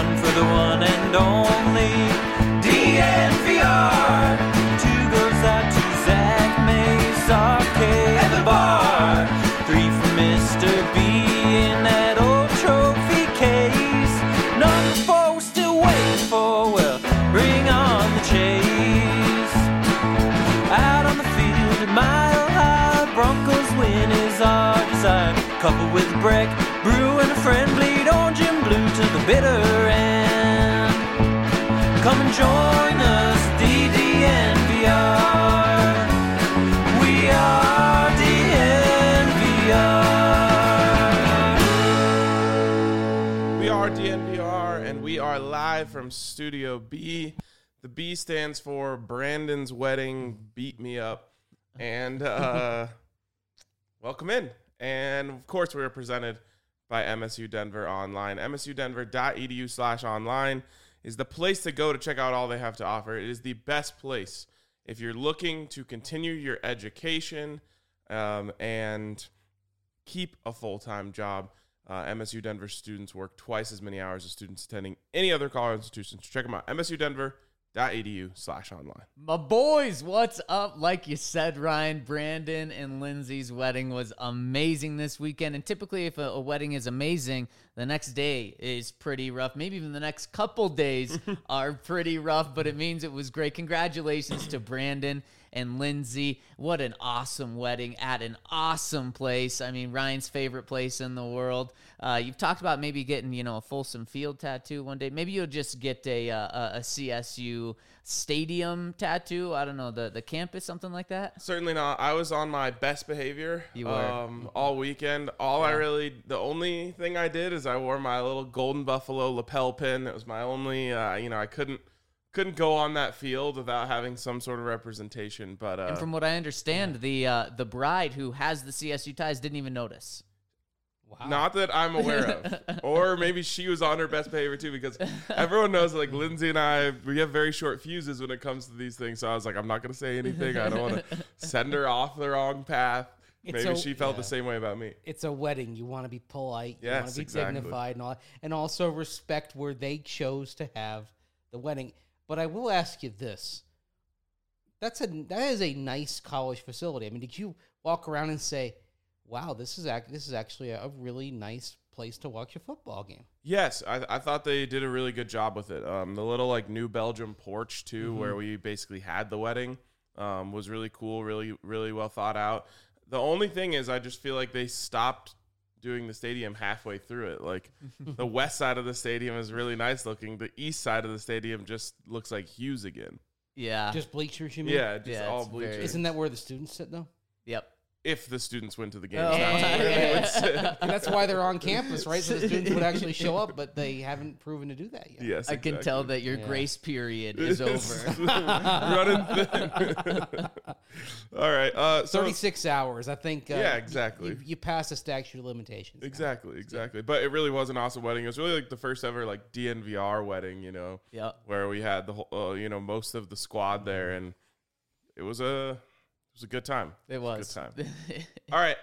one for the one and only DNVR. Two goes out to Zach Mays, Arcade at the bar. Three for Mr. B in that old trophy case. Number four we're still waiting for, well, bring on the chase. Out on the field at Mile High, Broncos win is our desire. Couple with a break, brew and a friend, bleed orange and blue to the bitter end. Come and join us, DNVR. We are DNVR. We are DNVR, and we are live from Studio B. The B stands for Brandon's Wedding Beat Me Up. And welcome in. And, of course, we are presented by MSU Denver Online. msudenver.edu/online is the place to go to check out all they have to offer. It is the best place if you're looking to continue your education and keep a full-time job. MSU Denver students work twice as many hours as students attending any other college institution. So check them out, msudenver.edu/online. My boys, what's up? Like you said, Ryan, Brandon and Lindsay's wedding was amazing this weekend. And typically if a wedding is amazing, the next day is pretty rough. Maybe even the next couple days are pretty rough, but it means it was great. Congratulations to Brandon and Lindsay. What an awesome wedding at an awesome place. I mean, Ryan's favorite place in the world. You've talked about maybe getting, a Folsom Field tattoo one day. Maybe you'll just get a CSU stadium tattoo. I don't know, the campus, something like that. Certainly not. I was on my best behavior You were. all weekend. The only thing I did is I wore my little Golden Buffalo lapel pin. It was my only, I couldn't go on that field without having some sort of representation. But And from what I understand, the bride who has the CSU ties didn't even notice. Wow. not that I'm aware of. Or maybe she was on her best behavior too, because everyone knows like Lindsay and I, we have very short fuses when it comes to these things. So I was like, I'm not going to say anything. I don't want to send her off the wrong path. Maybe she felt the same way about me. It's a wedding. You want to be polite. You want Yes, to be exactly. dignified and also respect where they chose to have the wedding. But I will ask you this. That is a nice college facility. I mean, did you walk around and say, wow, this is actually a really nice place to watch a football game? Yes, I thought they did a really good job with it. The little like New Belgium porch too, where we basically had the wedding, was really cool, really, really well thought out. The only thing is I just feel like they stopped doing the stadium halfway through it. Like the west side of the stadium is really nice looking. The east side of the stadium just looks like Hughes again. Yeah. Just bleachers, you mean? Yeah, just Yeah, all it's very- bleachers. Isn't that where the students sit, though? Yep. If the students went to the games, Oh. that's where they would sit. And that's why they're on campus, right? So the students would actually show up, but they haven't proven to do that yet. Yes, I can tell that your Yeah. grace period is over. Running thin. All right. So 36 hours, I think. Yeah, exactly. You pass the statute of limitations. now. Exactly. But it really was an awesome wedding. It was really like the first ever like DNVR wedding, Yep. where we had the whole, most of the squad there, and it was a good time. It was. a good time. All right.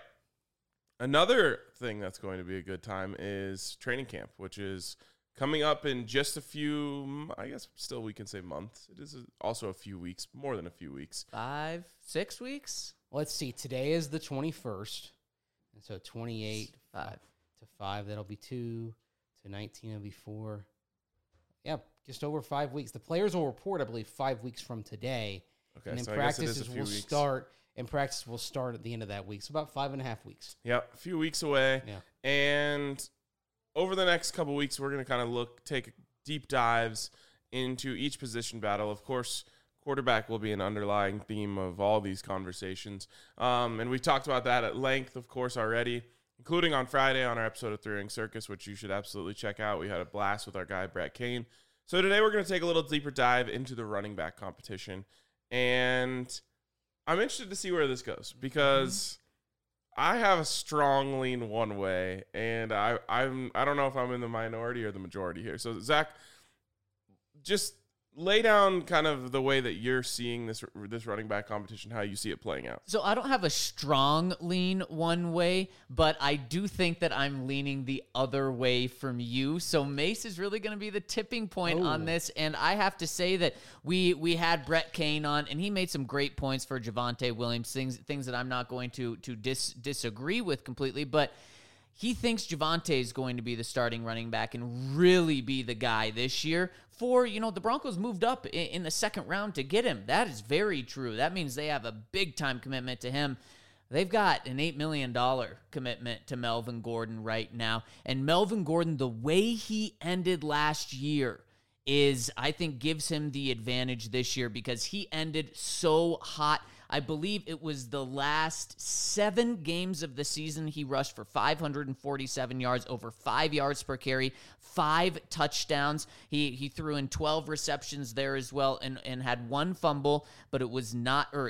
Another thing that's going to be a good time is training camp, which is coming up in just a few, I guess still we can say months. It is also a few weeks, more than a few weeks. 5, 6 weeks? Let's see. Today is the 21st. And so 28 5. to 5, that'll be 2. To 19, that'll be 4. Yeah, just over 5 weeks. The players will report, I believe, 5 weeks from today. Okay, And then so I guess it is a practices few will weeks. start. And practice will start at the end of that week. So about 5.5 weeks. Yep, a few weeks away. Yeah. And over the next couple weeks, we're going to kind of take deep dives into each position battle. Of course, quarterback will be an underlying theme of all these conversations. And we've talked about that at length, of course, already, including on Friday on our episode of Three Ring Circus, which you should absolutely check out. We had a blast with our guy, Brett Kane. So today we're going to take a little deeper dive into the running back competition. And I'm interested to see where this goes because I have a strong lean one way, and I don't know if I'm in the minority or the majority here. So, Zach, just lay down kind of the way that you're seeing this running back competition, how you see it playing out. So I don't have a strong lean one way, but I do think that I'm leaning the other way from you. So Mace is really going to be the tipping point on this. And I have to say that we had Brett Kane on, and he made some great points for Javonte Williams, things that I'm not going to disagree with completely, but he thinks Javonte is going to be the starting running back and really be the guy this year. The Broncos moved up in the second round to get him. That is very true. That means they have a big-time commitment to him. They've got an $8 million commitment to Melvin Gordon right now. And Melvin Gordon, the way he ended last year I think, gives him the advantage this year because he ended so hot. I believe it was the last 7 games of the season he rushed for 547 yards, over 5 yards per carry, 5 touchdowns. He threw in 12 receptions there as well and had 1 fumble, but it was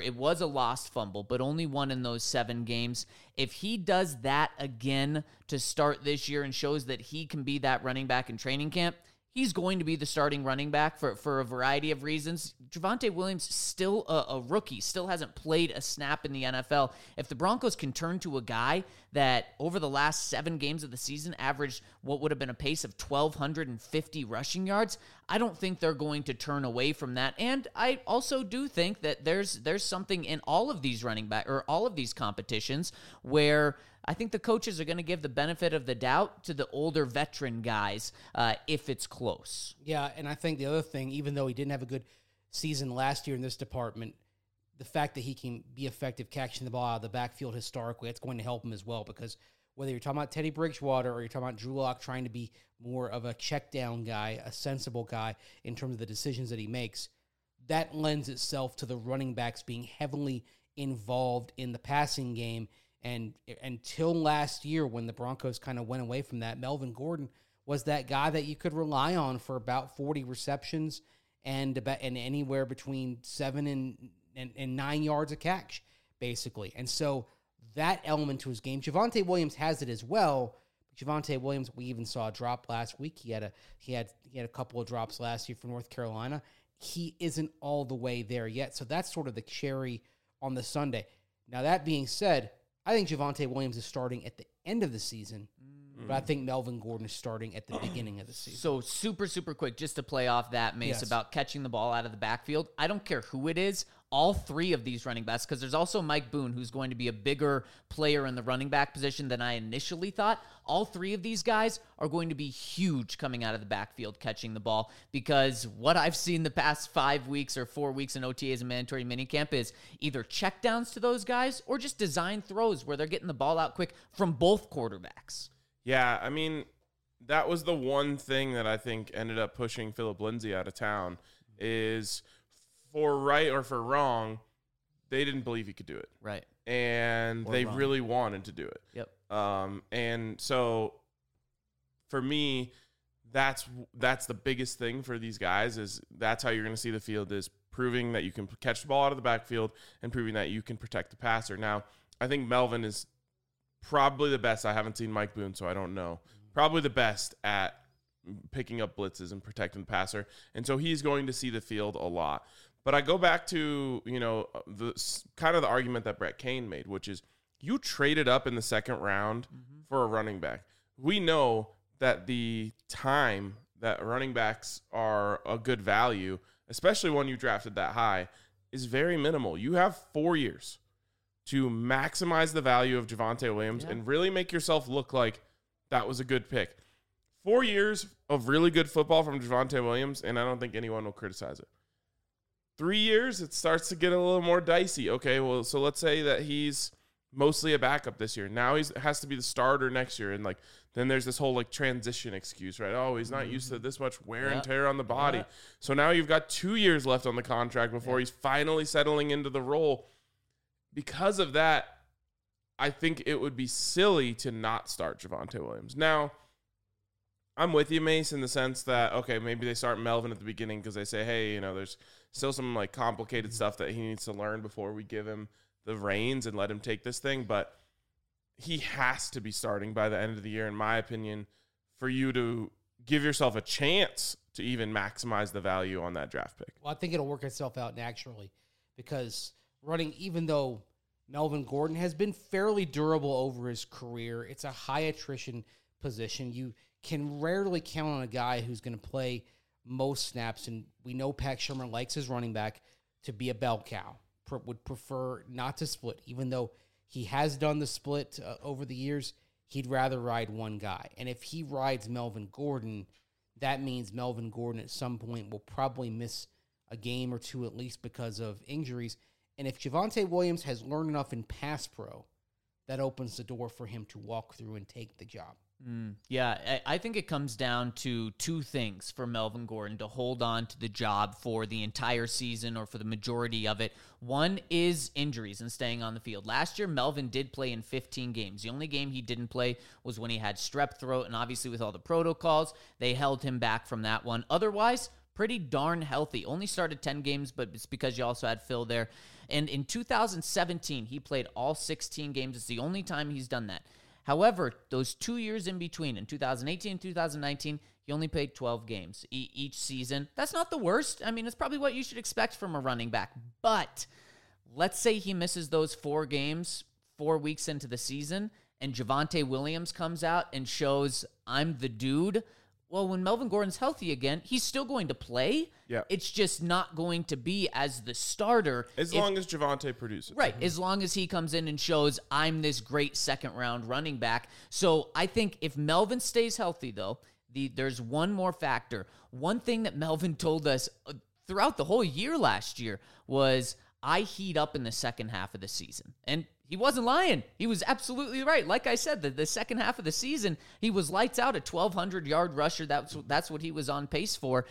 a lost fumble, but only 1 in those 7 games. If he does that again to start this year and shows that he can be that running back in training camp, he's going to be the starting running back for a variety of reasons. Javonte Williams, still a rookie, still hasn't played a snap in the NFL. If the Broncos can turn to a guy that over the last 7 games of the season averaged what would have been a pace of 1,250 rushing yards, I don't think they're going to turn away from that. And I also do think that there's something in all of these running back or all of these competitions where I think the coaches are going to give the benefit of the doubt to the older veteran guys if it's close. Yeah, and I think the other thing, even though he didn't have a good season last year in this department, the fact that he can be effective catching the ball out of the backfield historically, that's going to help him as well, because whether you're talking about Teddy Bridgewater or you're talking about Drew Lock trying to be more of a check down guy, a sensible guy in terms of the decisions that he makes, that lends itself to the running backs being heavily involved in the passing game. And until last year, when the Broncos kind of went away from that, Melvin Gordon was that guy that you could rely on for about 40 receptions and anywhere between 7 and 9 yards a catch, basically. And so that element to his game, Javonte Williams has it as well. Javonte Williams, we even saw a drop last week. He had a couple of drops last year for North Carolina. He isn't all the way there yet. So that's sort of the cherry on the sundae. Now, that being said, I think Javonte Williams is starting at the end of the season, but I think Melvin Gordon is starting at the beginning of the season. So super, super quick, just to play off that, Mace, about catching the ball out of the backfield. I don't care who it is. All 3 of these running backs, because there's also Mike Boone, who's going to be a bigger player in the running back position than I initially thought. All 3 of these guys are going to be huge coming out of the backfield catching the ball, because what I've seen the past 5 weeks or 4 weeks in OTAs and mandatory minicamp is either checkdowns to those guys or just design throws where they're getting the ball out quick from both quarterbacks. Yeah, I mean, that was the one thing that I think ended up pushing Philip Lindsay out of town is, for right or for wrong, they didn't believe he could do it. Right. And they really wanted to do it. Yep. And so for me, that's the biggest thing for these guys is that's how you're going to see the field is proving that you can catch the ball out of the backfield and proving that you can protect the passer. Now, I think Melvin is probably the best. I haven't seen Mike Boone, so I don't know. Probably the best at picking up blitzes and protecting the passer. And so he's going to see the field a lot. But I go back to, the kind of the argument that Brett Kane made, which is you traded up in the second round for a running back. We know that the time that running backs are a good value, especially when you drafted that high, is very minimal. You have 4 years to maximize the value of Javonte Williams and really make yourself look like that was a good pick. 4 years of really good football from Javonte Williams, and I don't think anyone will criticize it. 3 years, it starts to get a little more dicey. Okay, well, so let's say that he's mostly a backup this year. Now he has to be the starter next year, and then there's this whole transition excuse, right? Oh, he's not used to this much wear and tear on the body. So now you've got 2 years left on the contract before he's finally settling into the role. Because of that, I think it would be silly to not start Javonte Williams. Now, I'm with you, Mace, in the sense that, okay, maybe they start Melvin at the beginning because they say, hey, there's still some complicated stuff that he needs to learn before we give him the reins and let him take this thing. But he has to be starting by the end of the year, in my opinion, for you to give yourself a chance to even maximize the value on that draft pick. Well, I think it'll work itself out naturally because even though Melvin Gordon has been fairly durable over his career, it's a high attrition position. You can rarely count on a guy who's going to play most snaps, and we know Pat Shurmur likes his running back to be a bell cow, would prefer not to split, even though he has done the split over the years. He'd rather ride one guy. And if he rides Melvin Gordon, that means Melvin Gordon at some point will probably miss a game or two at least because of injuries. And if Javonte Williams has learned enough in pass pro, that opens the door for him to walk through and take the job. Yeah, I think it comes down to two things for Melvin Gordon to hold on to the job for the entire season or for the majority of it. One is injuries and staying on the field. Last year, Melvin did play in 15 games. The only game he didn't play was when he had strep throat, and obviously with all the protocols, they held him back from that one. Otherwise, pretty darn healthy. Only started 10 games, but it's because you also had Phil there. And in 2017, he played all 16 games. It's the only time he's done that. However, those 2 years in between, in 2018 and 2019, he only played 12 games each season. That's not the worst. I mean, it's probably what you should expect from a running back. But let's say he misses those 4 games 4 weeks into the season, and Javonte Williams comes out and shows, I'm the dude. Well, when Melvin Gordon's healthy again, he's still going to play. Yeah. It's just not going to be as the starter. As long as Javonte produces. Right. As long as he comes in and shows, I'm this great second-round running back. So I think if Melvin stays healthy, though, there's one more factor. One thing that Melvin told us throughout the whole year last year was, I heat up in the second half of the season. And he wasn't lying. He was absolutely right. Like I said, the second half of the season, he was lights out, a 1,200-yard rusher. That's what he was on pace for.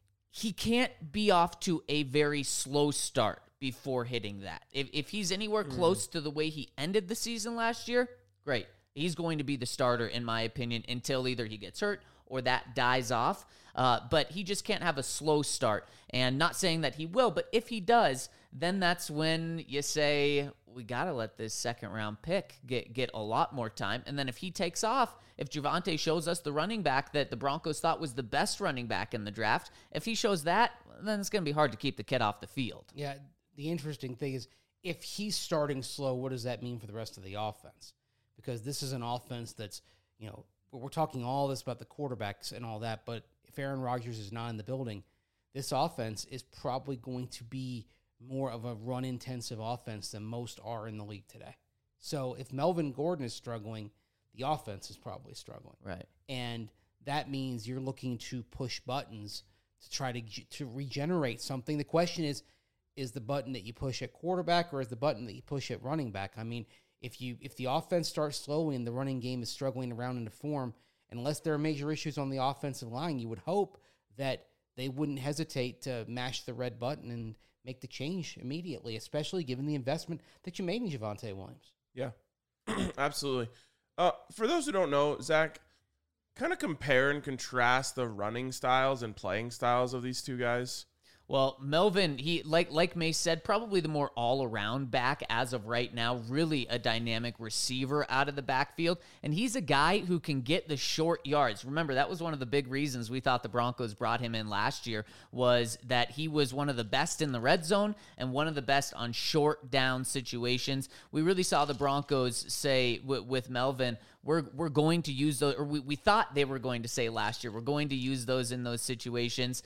He can't be off to a very slow start before hitting that. If he's anywhere close to the way he ended the season last year, great. He's going to be the starter, in my opinion, until either he gets hurt or that dies off. But he just can't have a slow start. And not saying that he will, but if he does, then that's when you say, we got to let this second-round pick get a lot more time. And then if he takes off, if Javonte shows us the running back that the Broncos thought was the best running back in the draft, if he shows that, then it's going to be hard to keep the kid off the field. Yeah, the interesting thing is, if he's starting slow, what does that mean for the rest of the offense? Because this is an offense that's, we're talking all this about the quarterbacks and all that, but if Aaron Rodgers is not in the building, this offense is probably going to be more of a run-intensive offense than most are in the league today. So if Melvin Gordon is struggling, the offense is probably struggling. Right. And that means you're looking to push buttons to try to regenerate something. The question is the button that you push at quarterback or is the button that you push at running back? I mean, if the offense starts slowly and the running game is struggling around into form, unless there are major issues on the offensive line, you would hope that they wouldn't hesitate to mash the red button and make the change immediately, especially given the investment that you made in Javonte Williams. Yeah, absolutely. For those who don't know, Zach, kind of compare and contrast the running styles and playing styles of these two guys. Well, Melvin, he like May said, probably the more all-around back as of right now, really a dynamic receiver out of the backfield, and he's a guy who can get the short yards. Remember, that was one of the big reasons we thought the Broncos brought him in last year, was that he was one of the best in the red zone and one of the best on short down situations. We really saw the Broncos say with Melvin, we're going to use those, or we thought they were going to say last year, we're going to use those in those situations.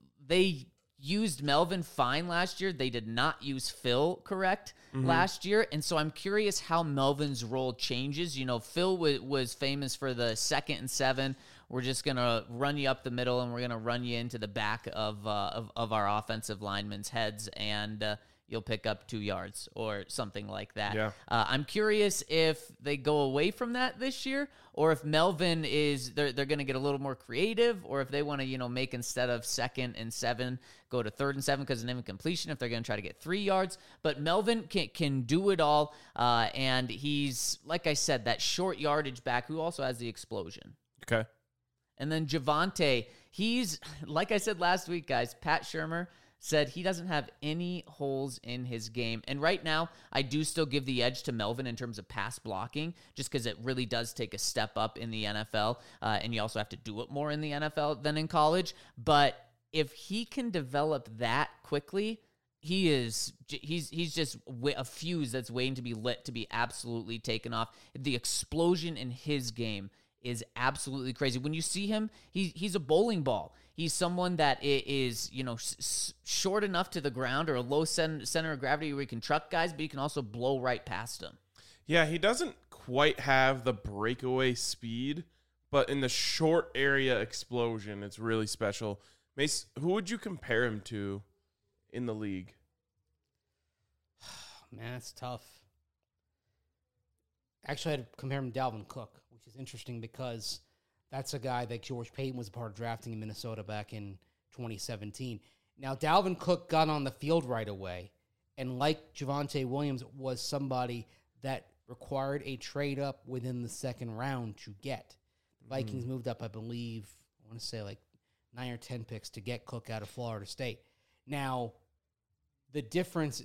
They used Melvin fine last year. They did not use Phil correct last year. And so I'm curious how Melvin's role changes. Phil was famous for the 2nd and 7. We're just going to run you up the middle and we're going to run you into the back of our offensive linemen's heads and you'll pick up 2 yards or something like that. Yeah. I'm curious if they go away from that this year or if Melvin they're going to get a little more creative or if they want to, make instead of 2nd and 7, go to 3rd and 7 because of an incompletion if they're going to try to get 3 yards. But Melvin can do it all. And he's, like I said, that short yardage back who also has the explosion. Okay. And then Javonte, he's, like I said last week, guys, Pat Shurmur, said he doesn't have any holes in his game. And right now, I do still give the edge to Melvin in terms of pass blocking, just because it really does take a step up in the NFL, and you also have to do it more in the NFL than in college. But if he can develop that quickly, he's just a fuse that's waiting to be lit, to be absolutely taken off. The explosion in his game is absolutely crazy. When you see him, he's a bowling ball. He's someone that is, short enough to the ground or a low center of gravity where he can truck guys, but he can also blow right past them. Yeah, he doesn't quite have the breakaway speed, but in the short area explosion, it's really special. Mace, who would you compare him to in the league? Man, that's tough. Actually, I'd compare him to Dalvin Cook, which is interesting because that's a guy that George Payton was a part of drafting in Minnesota back in 2017. Now, Dalvin Cook got on the field right away, and like Javonte Williams, was somebody that required a trade up within the second round to get. The Vikings moved up, I believe, I want to say like 9 or 10 picks to get Cook out of Florida State. Now, the difference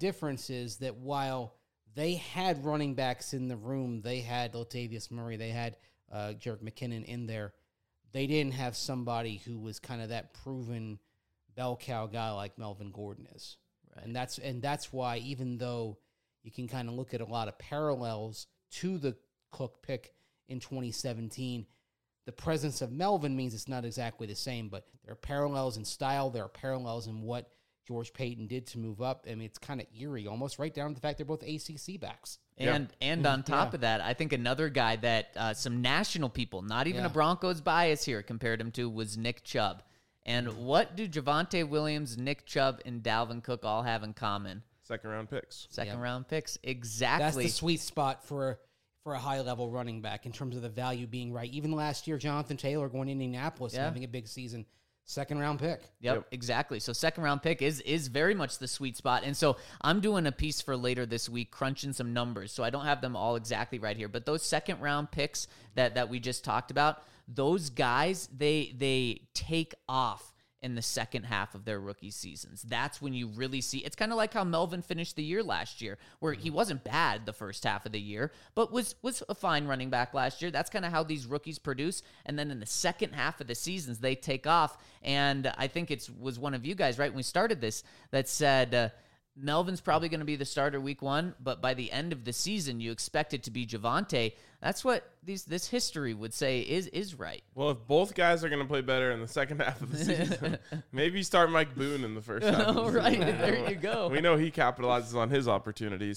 is that while they had running backs in the room, they had Latavius Murray, they had Jerick McKinnon in there, they didn't have somebody who was kind of that proven bell cow guy like Melvin Gordon is. Right. And that's why, even though you can kind of look at a lot of parallels to the Cook pick in 2017, the presence of Melvin means it's not exactly the same, but there are parallels in style. There are parallels in what George Payton did to move up. I mean, it's kind of eerie, almost right down to the fact they're both ACC backs. And on top of that, I think another guy that some national people, not even a Broncos bias here, compared him to was Nick Chubb. And what do Javonte Williams, Nick Chubb, and Dalvin Cook all have in common? Second-round picks. Second-round picks, exactly. That's the sweet spot for a high-level running back in terms of the value being right. Even last year, Jonathan Taylor going to Indianapolis and having a big season. Second-round pick. Yep, exactly. So second-round pick is very much the sweet spot. And so I'm doing a piece for later this week, crunching some numbers. So I don't have them all exactly right here. But those second-round picks that we just talked about, those guys, they take off in the second half of their rookie seasons. That's when you really see. It's kind of like how Melvin finished the year last year, where he wasn't bad the first half of the year, but was a fine running back last year. That's kind of how these rookies produce. And then in the second half of the seasons, they take off. And I think it was one of you guys, right, when we started this, that said, Melvin's probably going to be the starter week 1, but by the end of the season, you expect it to be Javonte. That's what this history would say is right. Well, if both guys are going to play better in the second half of the season, maybe you start Mike Boone in the first half of the season. Right, there you go. We know he capitalizes on his opportunities.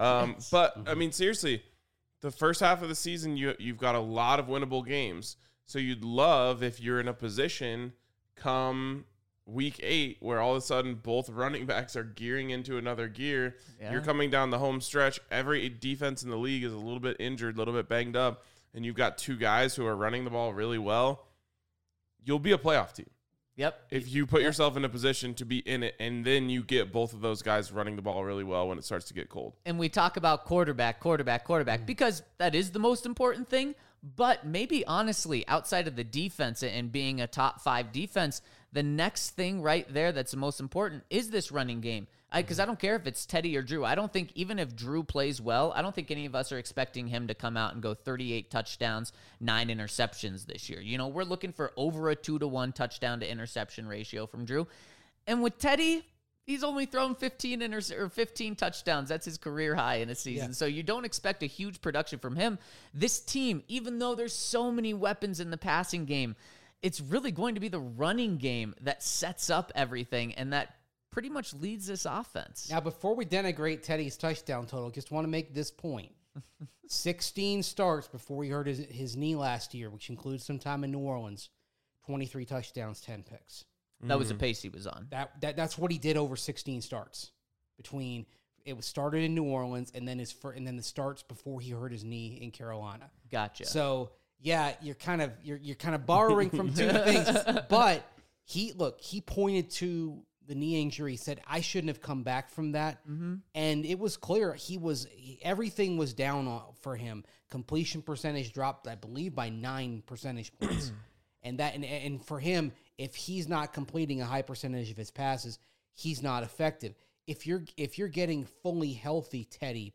But, I mean, seriously, the first half of the season, you've got a lot of winnable games. So you'd love if you're in a position come week 8 where all of a sudden both running backs are gearing into another gear. You're coming down the home stretch. Every defense in the league is a little bit injured, a little bit banged up, and you've got 2 guys who are running the ball really well. You'll be a playoff team. Yep. If you put yourself in a position to be in it, and then you get both of those guys running the ball really well when it starts to get cold. And we talk about quarterback, because that is the most important thing. But maybe honestly, outside of the defense and being a top 5 defense, the next thing right there that's the most important is this running game. Because I don't care if it's Teddy or Drew. I don't think, even if Drew plays well, I don't think any of us are expecting him to come out and go 38 touchdowns, 9 interceptions this year. You know, we're looking for over a 2-to-1 touchdown to interception ratio from Drew. And with Teddy, he's only thrown 15 touchdowns. That's his career high in a season. Yeah. So you don't expect a huge production from him. This team, even though there's so many weapons in the passing game, it's really going to be the running game that sets up everything and that pretty much leads this offense. Now, before we denigrate Teddy's touchdown total, just want to make this point. 16 starts before he hurt his knee last year, which includes some time in New Orleans. 23 touchdowns, 10 picks. That was the pace he was on. That's what he did over 16 starts. Between it was started in New Orleans and then the starts before he hurt his knee in Carolina. Gotcha. So yeah, you're kind of borrowing from 2 things. But he pointed to the knee injury, said I shouldn't have come back from that, and it was clear everything was down for him. Completion percentage dropped, I believe, by 9 percentage points, and for him, if he's not completing a high percentage of his passes, he's not effective. If you're getting fully healthy Teddy,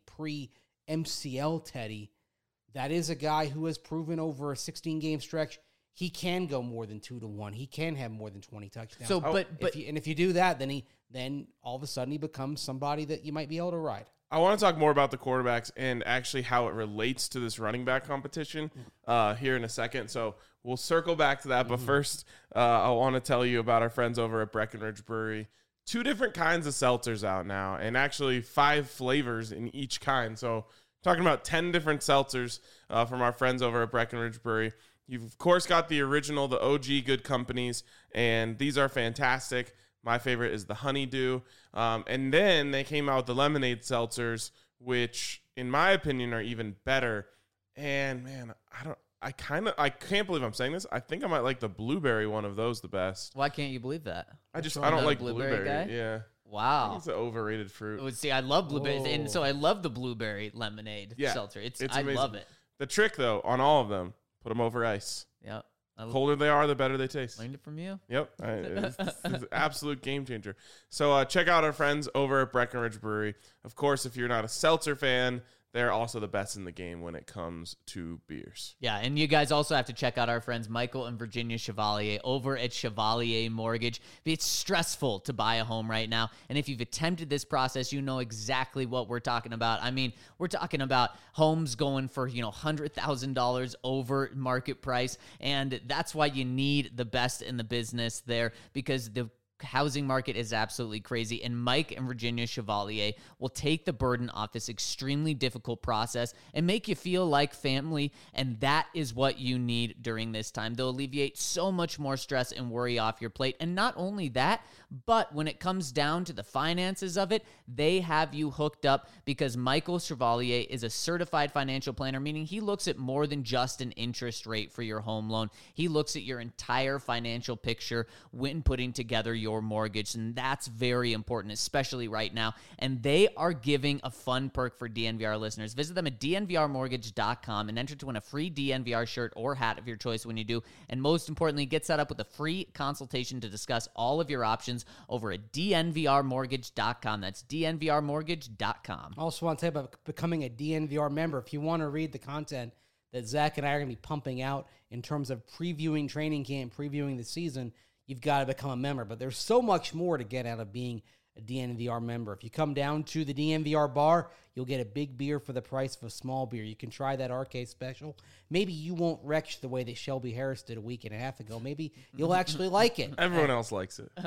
pre-MCL Teddy, that is a guy who has proven over a 16-game stretch he can go more than 2-1. He can have more than 20 touchdowns. So, but if you do that, then all of a sudden he becomes somebody that you might be able to ride. I want to talk more about the quarterbacks and actually how it relates to this running back competition here in a second. So we'll circle back to that. But first, I want to tell you about our friends over at Breckenridge Brewery. 2 different kinds of seltzers out now, and actually 5 flavors in each kind. So talking about 10 different seltzers from our friends over at Breckenridge Brewery. You've, of course, got the original, the OG Good Companies, and these are fantastic. My favorite is the Honeydew. And then they came out with the lemonade seltzers, which, in my opinion, are even better. And, man, I can't believe I'm saying this. I think I might like the blueberry one of those the best. why can't you believe that? I don't like blueberry blueberry. guy? Yeah. I Wow. think it's an overrated fruit. Oh, see, I love blueberries, and so I love the blueberry lemonade Yeah, seltzer. it's I amazing. love it. The trick, though, on all of them, put them over ice. Yeah, I Colder they are, the better they taste. learned it from you. Yep. It's an absolute game changer. So check out our friends over at Breckenridge Brewery. Of course, if you're not a seltzer fan, they're also the best in the game when it comes to beers. Yeah, and you guys also have to check out our friends Michael and Virginia Chevalier over at Chevalier Mortgage. It's stressful to buy a home right now, and if you've attempted this process, you know exactly what we're talking about. I mean, we're talking about homes going for, $100,000 over market price, and that's why you need the best in the business there, because the housing market is absolutely crazy, and Mike and Virginia Chevalier will take the burden off this extremely difficult process and make you feel like family, and that is what you need during this time. They'll alleviate so much more stress and worry off your plate, and not only that, but when it comes down to the finances of it, they have you hooked up, because Michael Chevalier is a certified financial planner, meaning he looks at more than just an interest rate for your home loan. He looks at your entire financial picture when putting together your mortgage, and that's very important, especially right now. And they are giving a fun perk for DNVR listeners. Visit them at dnvrmortgage.com and enter to win a free DNVR shirt or hat of your choice when you do. And most importantly, get set up with a free consultation to discuss all of your options over at dnvrmortgage.com. That's dnvrmortgage.com. I also want to tell you about becoming a DNVR member. If you want to read the content that Zach and I are going to be pumping out in terms of previewing training camp, previewing the season, you've got to become a member. But there's so much more to get out of being a DNVR member. If you come down to the DNVR bar, you'll get a big beer for the price of a small beer. You can try that RK special. Maybe you won't retch the way that Shelby Harris did a week and a half ago. Maybe you'll actually like it. Everyone else likes it.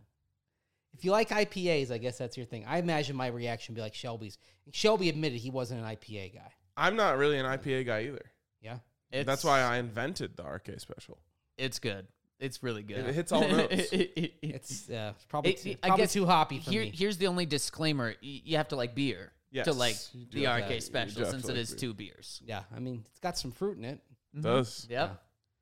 If you like IPAs, I guess that's your thing. I imagine my reaction would be like Shelby's. Shelby admitted he wasn't an IPA guy. I'm not really an IPA guy either. Yeah? That's why I invented the RK special. It's good. It's really good. It hits all notes. It's probably I guess too hoppy for me. Here's the only disclaimer. You have to like beer Yes, to like you do the have RK to. You special, do have since to it like is beer. 2 beers. Yeah, I mean, it's got some fruit in it. Does. Yep.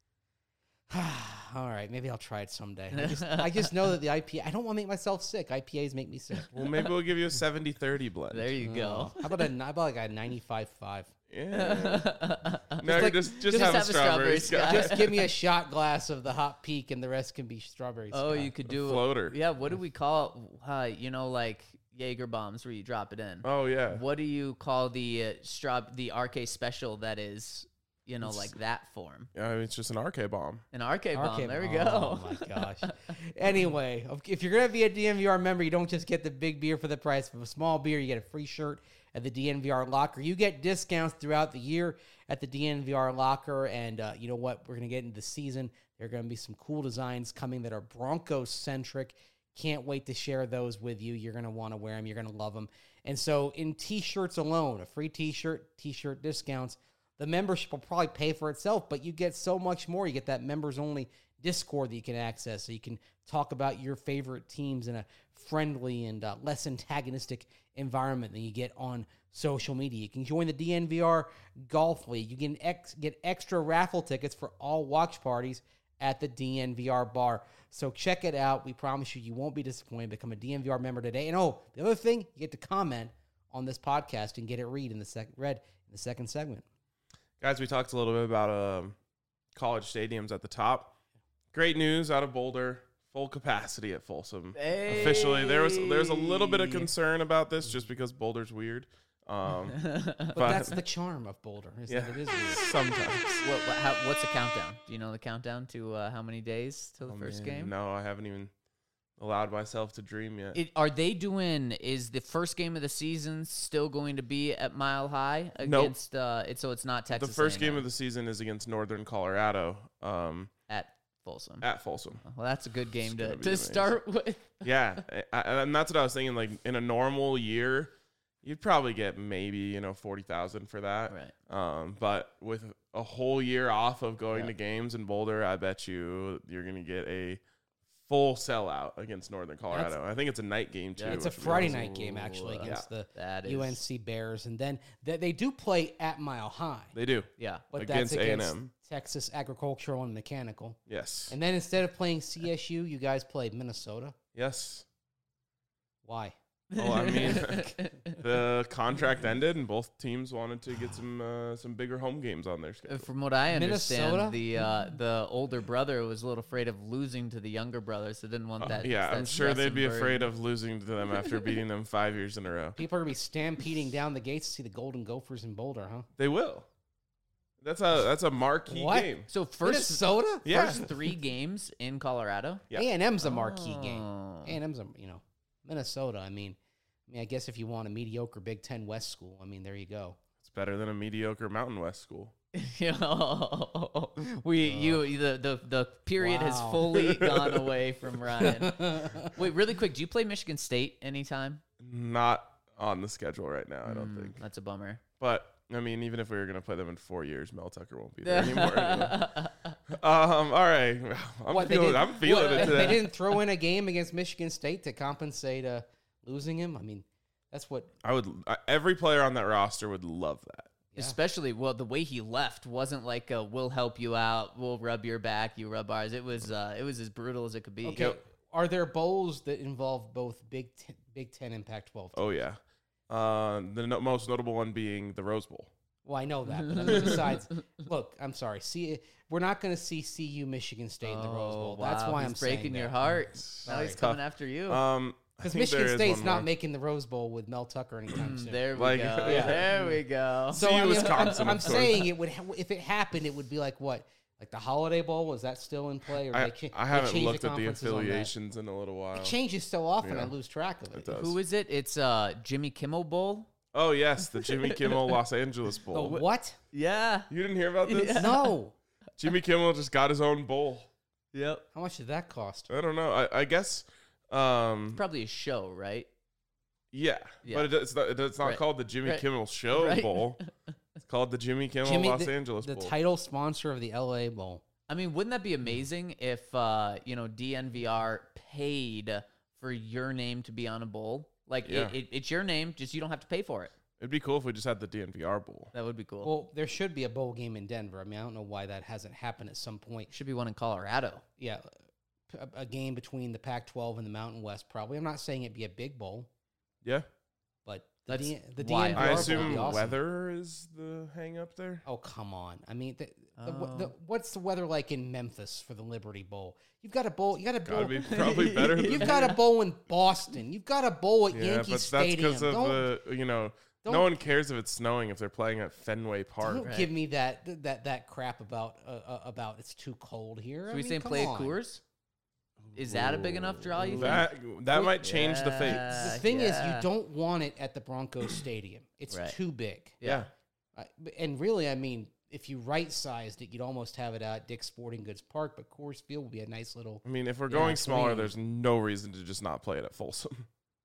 All right, maybe I'll try it someday. I just know that the IPA, I don't want to make myself sick. IPAs make me sick. Well, maybe we'll give you a 70-30 blend. There you go. How about like a 95.5? Yeah. No, like- just just have a have a strawberry strawberry. Scott. Just give me a shot glass of the Hot Peak and the rest can be strawberries. Oh, you could do floater. Yeah, what do we call like Jaeger bombs where you drop it in? Oh, yeah. What do you call the the RK special that is, like that form? It's just an RK bomb. An RK bomb. There we Oh go. my gosh. Anyway, if you're going to be a DNVR member, you don't just get the big beer for the price of a small beer. You get a free shirt at the DNVR locker. You get discounts throughout the year at the DNVR locker. And you know what? We're going to get into the season. There are going to be some cool designs coming that are Broncos-centric. Can't wait to share those with you. You're going to want to wear them. You're going to love them. And so in T-shirts alone, a free T-shirt discounts, the membership will probably pay for itself, but you get so much more. You get that members-only Discord that you can access, so you can talk about your favorite teams in a friendly and less antagonistic environment than you get on social media. You can join the DNVR Golf League. You can get extra raffle tickets for all watch parties at the DNVR bar. So check it out. We promise you won't be disappointed. Become a DNVR member today. And the other thing, you get to comment on this podcast and get it read in the second segment. Guys, we talked a little bit about college stadiums at the top. Great news out of Boulder. full capacity at Folsom. Officially, there's a little bit of concern about this just because Boulder's weird. But that's the charm of Boulder, is that it is weird. Sometimes. What's the countdown? Do you know the countdown to how many days till the first game? No, I haven't even allowed myself to dream yet. Is the first game of the season still going to be at Mile High Nope. against, so it's not Texas The first A&M game of the season is against Northern Colorado at Folsom. at Folsom. Well, that's a good game gonna be to start with. Yeah, and that's what I was thinking. Like in a normal year, you'd probably get maybe 40,000 for that. Right. But with a whole year off of going to games in Boulder, I bet you're gonna get a full sellout against Northern Colorado. I think it's a night game too. It's a which would be Friday awesome. night game, actually, against the that is- UNC Bears. And then they do play at Mile High. They do. Yeah. But against that's against A&M. Texas Agricultural and Mechanical. Yes. And then instead of playing CSU, you guys played Minnesota. Yes. Why? Well, I mean, the contract ended, and both teams wanted to get some bigger home games on their schedule. From what I understand, Minnesota? the older brother was a little afraid of losing to the younger brother, so didn't want that. Yeah, that I'm sure stress they'd and be burden. afraid of losing to them after beating them 5 years in a row. People are going to be stampeding down the gates to see the Golden Gophers in Boulder, huh? They will. That's a marquee What? game. So first Minnesota? Yeah. first 3 games in Colorado. Yeah. A&M's a marquee game. Oh. A&M's a, Minnesota. I mean, I guess if you want a mediocre Big Ten West school, I mean, there you go. It's better than a mediocre Mountain West school. The period has Wow. fully gone away from Ryan. Wait, really quick, do you play Michigan State anytime? Not on the schedule right now, I don't think. That's a bummer. But I mean, even if we were going to play them in 4 years, Mel Tucker won't be there anymore. All right, I'm feeling it They today. didn't throw in a game against Michigan State to compensate losing him. I mean, that's what. Every player on that roster would love that. Yeah. Especially, the way he left wasn't like we'll help you out, we'll rub your back, you rub ours. It was as brutal as it could be. Okay, are there bowls that involve both Big Ten and Pac-12? Oh yeah, most notable one being the Rose Bowl. Well, I know that. But I mean, besides, look, I'm sorry. We're not going to see CU Michigan State in the Rose Bowl. That's why I'm breaking saying your that. heart. Now Sorry. he's coming after you. Because Michigan State's not making the Rose Bowl with Mel Tucker anytime soon. There we Like- go. Yeah. There we go. So CU I mean, Wisconsin, I'm of course. saying it would. If it happened, it would be like what? Like the Holiday Bowl? Was that still in play? Or I they haven't changed looked at the conferences on that? affiliations in a little while. It changes so often, Yeah. I lose track of it. It does. Who is it? It's Jimmy Kimmel Bowl. Oh yes, the Jimmy Kimmel Los Angeles The Bowl. what? Yeah. You didn't hear about this? No. Jimmy Kimmel just got his own bowl. Yep. How much did that cost? I don't know. I guess. Probably a show, right? Yeah, Yeah. but it's not Right. called the Jimmy Right. Kimmel Show Right. Bowl. It's called the Jimmy Kimmel Los Angeles the Bowl. title sponsor of the LA Bowl. I mean, wouldn't that be amazing if DNVR paid for your name to be on a bowl? Like Yeah. it's your name, just you don't have to pay for it. It'd be cool if we just had the DNVR Bowl. That would be cool. Well, there should be a bowl game in Denver. I mean, I don't know why that hasn't happened at some point. Should be one in Colorado. Yeah, a game between the Pac-12 and the Mountain West probably. I'm not saying it'd be a big bowl, Yeah, but That's the why DNVR I bowl would assume be awesome. weather is the hang up there. Oh, come on. I mean, Oh. what's the weather like in Memphis for the Liberty Bowl? You've got a bowl. You got a bowl. Gotta be probably better than You've got a bowl in Boston. You've got a bowl at Yeah, Yankee but Stadium. that's because of Don't- no don't- one cares if it's snowing if they're playing at Fenway Park. Don't give me that crap about it's too cold here. So I we mean, saying come play at on. Coors? Is that a big enough draw, you think? That might change the The fates. thing is, Yeah. you don't want it at the Broncos Stadium. It's Right. too big. Yeah. And really, I mean, if you right-sized it, you'd almost have it at Dick's Sporting Goods Park, but Coors Field would be a nice little... I mean, if we're Yeah, going smaller, clean. there's no reason to just not play it at Folsom.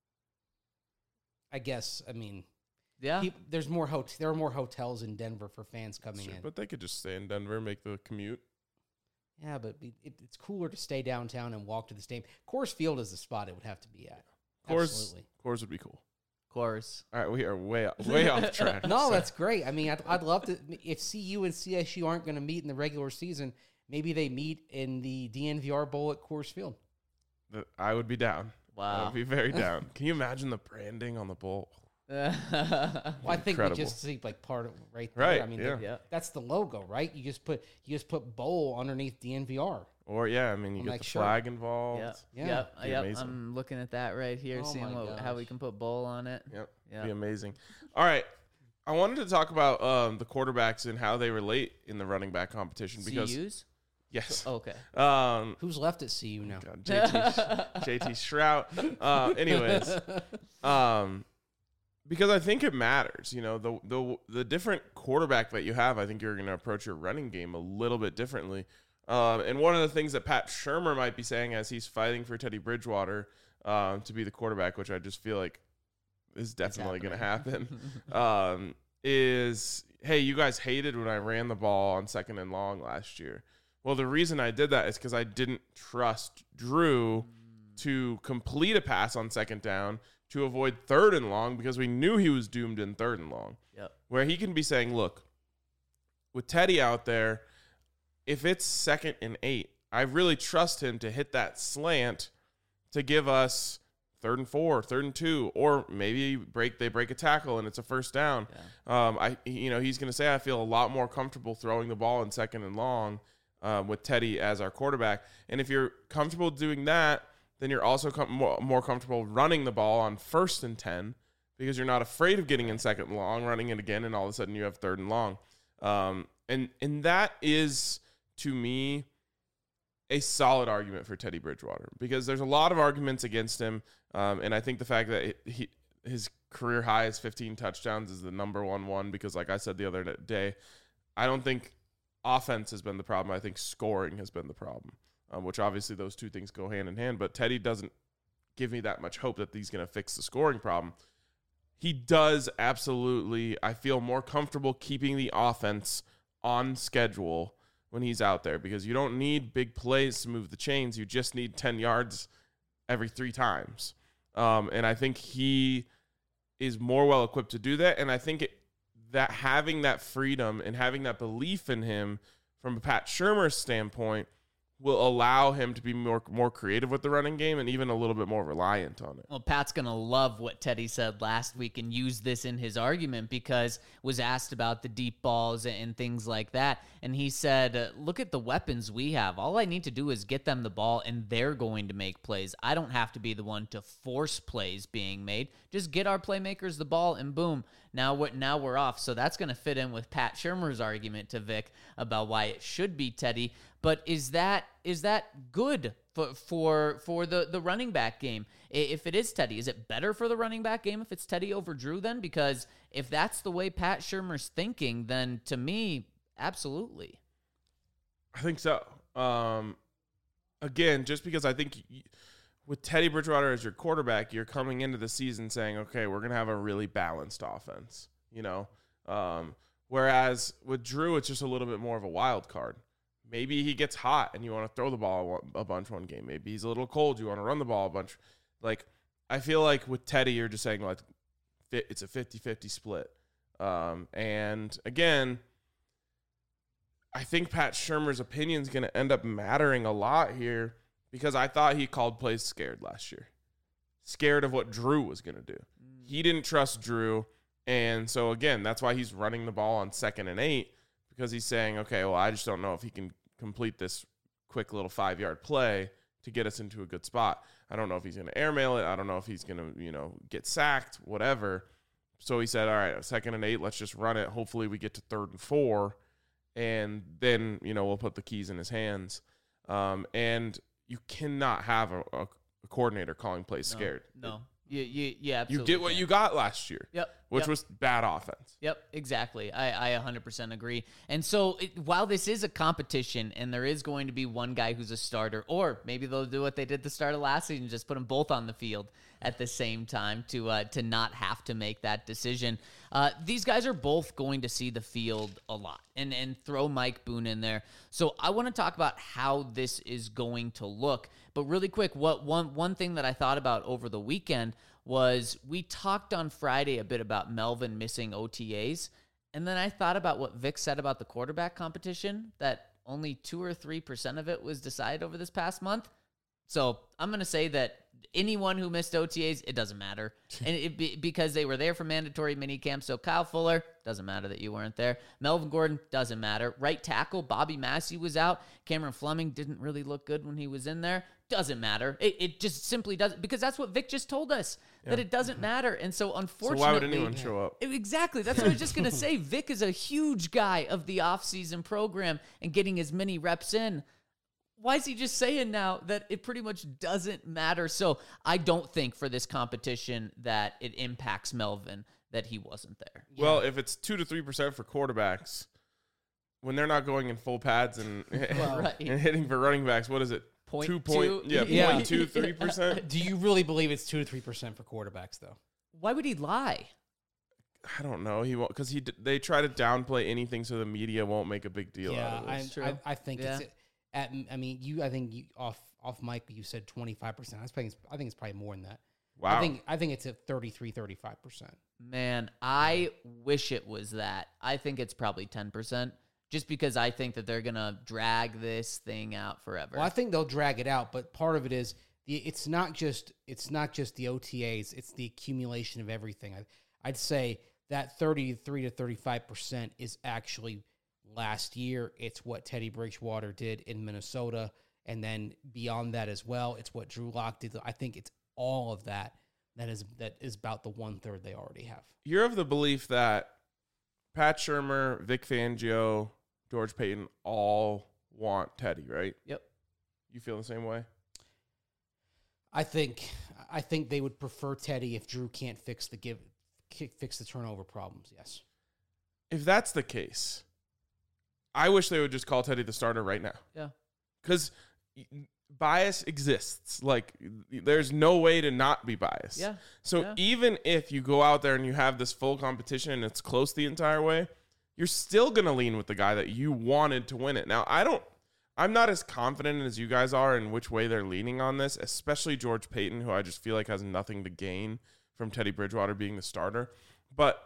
I guess, I mean, Yeah. there are more hotels in Denver for fans coming in. But they could just stay in Denver, make the commute. Yeah, but it's cooler to stay downtown and walk to the stadium. Coors Field is the spot it would have to be at. Absolutely. Coors would be cool. Coors. All right, we are way off track. No, that's great. I mean, I'd love to. If CU and CSU aren't going to meet in the regular season, maybe they meet in the DNVR Bowl at Coors Field. I would be down. I Wow. would be very down. Can you imagine the branding on the bowl? Well, I think Incredible. we just see like part of right there. Right, I mean, yeah. Yeah. that's the logo, right? You just put bowl underneath DNVR. Or I mean, you On get that the shirt. flag involved. Yep. Be Yep. amazing. I'm looking at that right here, Oh seeing my how we gosh. can put bowl on it. Yep. Yeah. Be amazing. All right. I wanted to talk about the quarterbacks and how they relate in the running back competition because CUs? yes. Okay. Who's left at CU now? God, JT Shrout. Anyways, because I think it matters. You know, the different quarterback that you have, I think you're going to approach your running game a little bit differently. And one of the things that Pat Shurmur might be saying as he's fighting for Teddy Bridgewater to be the quarterback, which I just feel like is definitely going to happen, is, hey, you guys hated when I ran the ball on 2nd and long last year. Well, the reason I did that is because I didn't trust Drew to complete a pass on 2nd down to avoid 3rd and long because we knew he was doomed in 3rd and long. Yep. Where he can be saying, look, with Teddy out there, if it's 2nd and 8, I really trust him to hit that slant to give us 3rd and 4, 3rd and 2, or maybe they break a tackle and it's a 1st down. Yeah. He's going to say I feel a lot more comfortable throwing the ball in 2nd and long with Teddy as our quarterback. And if you're comfortable doing that, then you're also more comfortable running the ball on 1st and 10 because you're not afraid of getting in 2nd and long, running it again, and all of a sudden you have 3rd and long. And that is, to me, a solid argument for Teddy Bridgewater because there's a lot of arguments against him. And I think the fact that his career high is 15 touchdowns is the number one because, like I said the other day, I don't think offense has been the problem. I think scoring has been the problem, which obviously those two things go hand in hand. But Teddy doesn't give me that much hope that he's going to fix the scoring problem. He does absolutely, I feel, more comfortable keeping the offense on schedule when he's out there because you don't need big plays to move the chains. You just need 10 yards every 3 times. And I think he is more well equipped to do that. And I think that having that freedom and having that belief in him from a Pat Shurmur standpoint will allow him to be more creative with the running game and even a little bit more reliant on it. Well, Pat's going to love what Teddy said last week and use this in his argument because was asked about the deep balls and things like that. And he said, look at the weapons we have. All I need to do is get them the ball and they're going to make plays. I don't have to be the one to force plays being made. Just get our playmakers the ball and boom, now we're off. So that's going to fit in with Pat Shurmur's argument to Vic about why it should be Teddy. But is that good for the running back game? If it is Teddy, is it better for the running back game if it's Teddy over Drew then? Because if that's the way Pat Shurmur's thinking, then to me, absolutely. I think so. Again, just because I think with Teddy Bridgewater as your quarterback, you're coming into the season saying, okay, we're going to have a really balanced offense, you know? Whereas with Drew, it's just a little bit more of a wild card. Maybe he gets hot and you want to throw the ball a bunch one game. Maybe he's a little cold. You want to run the ball a bunch. Like, I feel like with Teddy, you're just saying, like, it's a 50-50 split. And, again, I think Pat Shurmur's opinion is going to end up mattering a lot here because I thought he called plays scared last year. Scared of what Drew was going to do. He didn't trust Drew. And so, again, that's why he's running the ball on 2nd and 8 because he's saying, okay, well, I just don't know if he can complete this quick little 5-yard play to get us into a good spot. I don't know if he's going to airmail it. I don't know if he's going to, get sacked, whatever. So he said, all right, 2nd and 8, let's just run it. Hopefully we get to 3rd and 4, and then, we'll put the keys in his hands. And you cannot have a coordinator calling plays scared. No. Yeah, absolutely. You get what you got last year. Yep. Which was bad offense. Yep, exactly. I 100% agree. And so while this is a competition and there is going to be one guy who's a starter, or maybe they'll do what they did at the start of last season, just put them both on the field at the same time to not have to make that decision. These guys are both going to see the field a lot and throw Mike Boone in there. So I want to talk about how this is going to look. But really quick, one thing that I thought about over the weekend was we talked on Friday a bit about Melvin missing OTAs, and then I thought about what Vic said about the quarterback competition, that only 2 or 3% of it was decided over this past month. So I'm going to say that anyone who missed OTAs, it doesn't matter. And because they were there for mandatory minicamp. So Kyle Fuller, doesn't matter that you weren't there. Melvin Gordon, doesn't matter. Right tackle, Bobby Massey was out. Cameron Fleming didn't really look good when he was in there. Doesn't matter. It just simply doesn't, because that's what Vic just told us, that it doesn't matter. And so unfortunately. So why would anyone show up? Exactly. That's what I was just going to say. Vic is a huge guy of the offseason program and getting as many reps in. Why is he just saying now that it pretty much doesn't matter? So I don't think for this competition that it impacts Melvin that he wasn't there. Well, if it's 2 to 3% for quarterbacks, when they're not going in full pads and, Right. and hitting for running backs, what is it? 0.2? Yeah, Yeah. 0.2, 3%. Do you really believe it's 2 to 3% for quarterbacks, though? Why would he lie? I don't know. He won't, because they try to downplay anything so the media won't make a big deal out of this. I think it's. I think you off mic you said 25%. I think it's probably more than that. Wow. I think it's at 33-35%. Man, I wish it was that. I think it's probably 10%, just because I think that they're going to drag this thing out forever. Well, I think they'll drag it out, but part of it is it's not just the OTAs, it's the accumulation of everything. I'd say that 33 to 35% is actually last year. It's what Teddy Bridgewater did in Minnesota, and then beyond that as well, it's what Drew Lock did. I think it's all of that is about the 1/3 they already have. You're of the belief that Pat Shurmur, Vic Fangio, George Payton all want Teddy, right? Yep. You feel the same way? I think they would prefer Teddy if Drew can't fix the turnover problems. Yes. If that's the case, I wish they would just call Teddy the starter right now. Yeah. Because bias exists. Like, there's no way to not be biased. Yeah. So even if you go out there and you have this full competition and it's close the entire way, you're still going to lean with the guy that you wanted to win it. Now, I'm not as confident as you guys are in which way they're leaning on this, especially George Payton, who I just feel like has nothing to gain from Teddy Bridgewater being the starter. But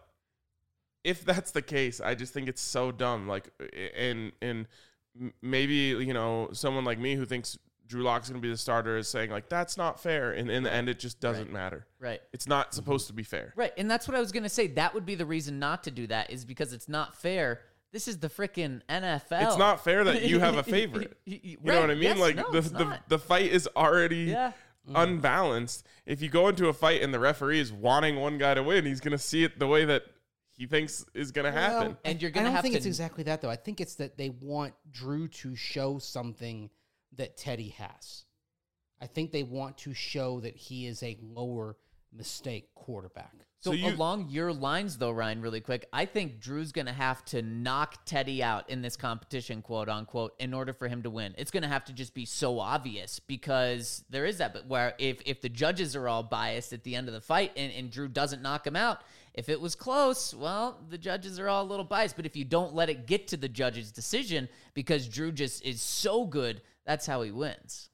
if that's the case, I just think it's so dumb. Like, and maybe, you know, someone like me who thinks Drew Lock's going to be the starter is saying, like, that's not fair. And in the end, it just doesn't matter. Right. It's not supposed to be fair. Right. And that's what I was going to say. That would be the reason not to do that, is because it's not fair. This is the freaking NFL. It's not fair that you have a favorite. You know what I mean? Yes, like, no, the fight is already Yeah. unbalanced. If you go into a fight and the referee is wanting one guy to win, he's going to see it the way that he thinks is going to happen. And you're I going to don't have think to. it's exactly that, though. I think it's that they want Drew to show something that Teddy has. I think they want to show that he is a lower mistake quarterback. So along your lines, though, Ryan, really quick, I think Drew's going to have to knock Teddy out in this competition, quote unquote, in order for him to win. It's going to have to just be so obvious, because there is that. But where if the judges are all biased at the end of the fight and Drew doesn't knock him out, if it was close, well, the judges are all a little biased. But if you don't let it get to the judge's decision because Drew just is so good, that's how he wins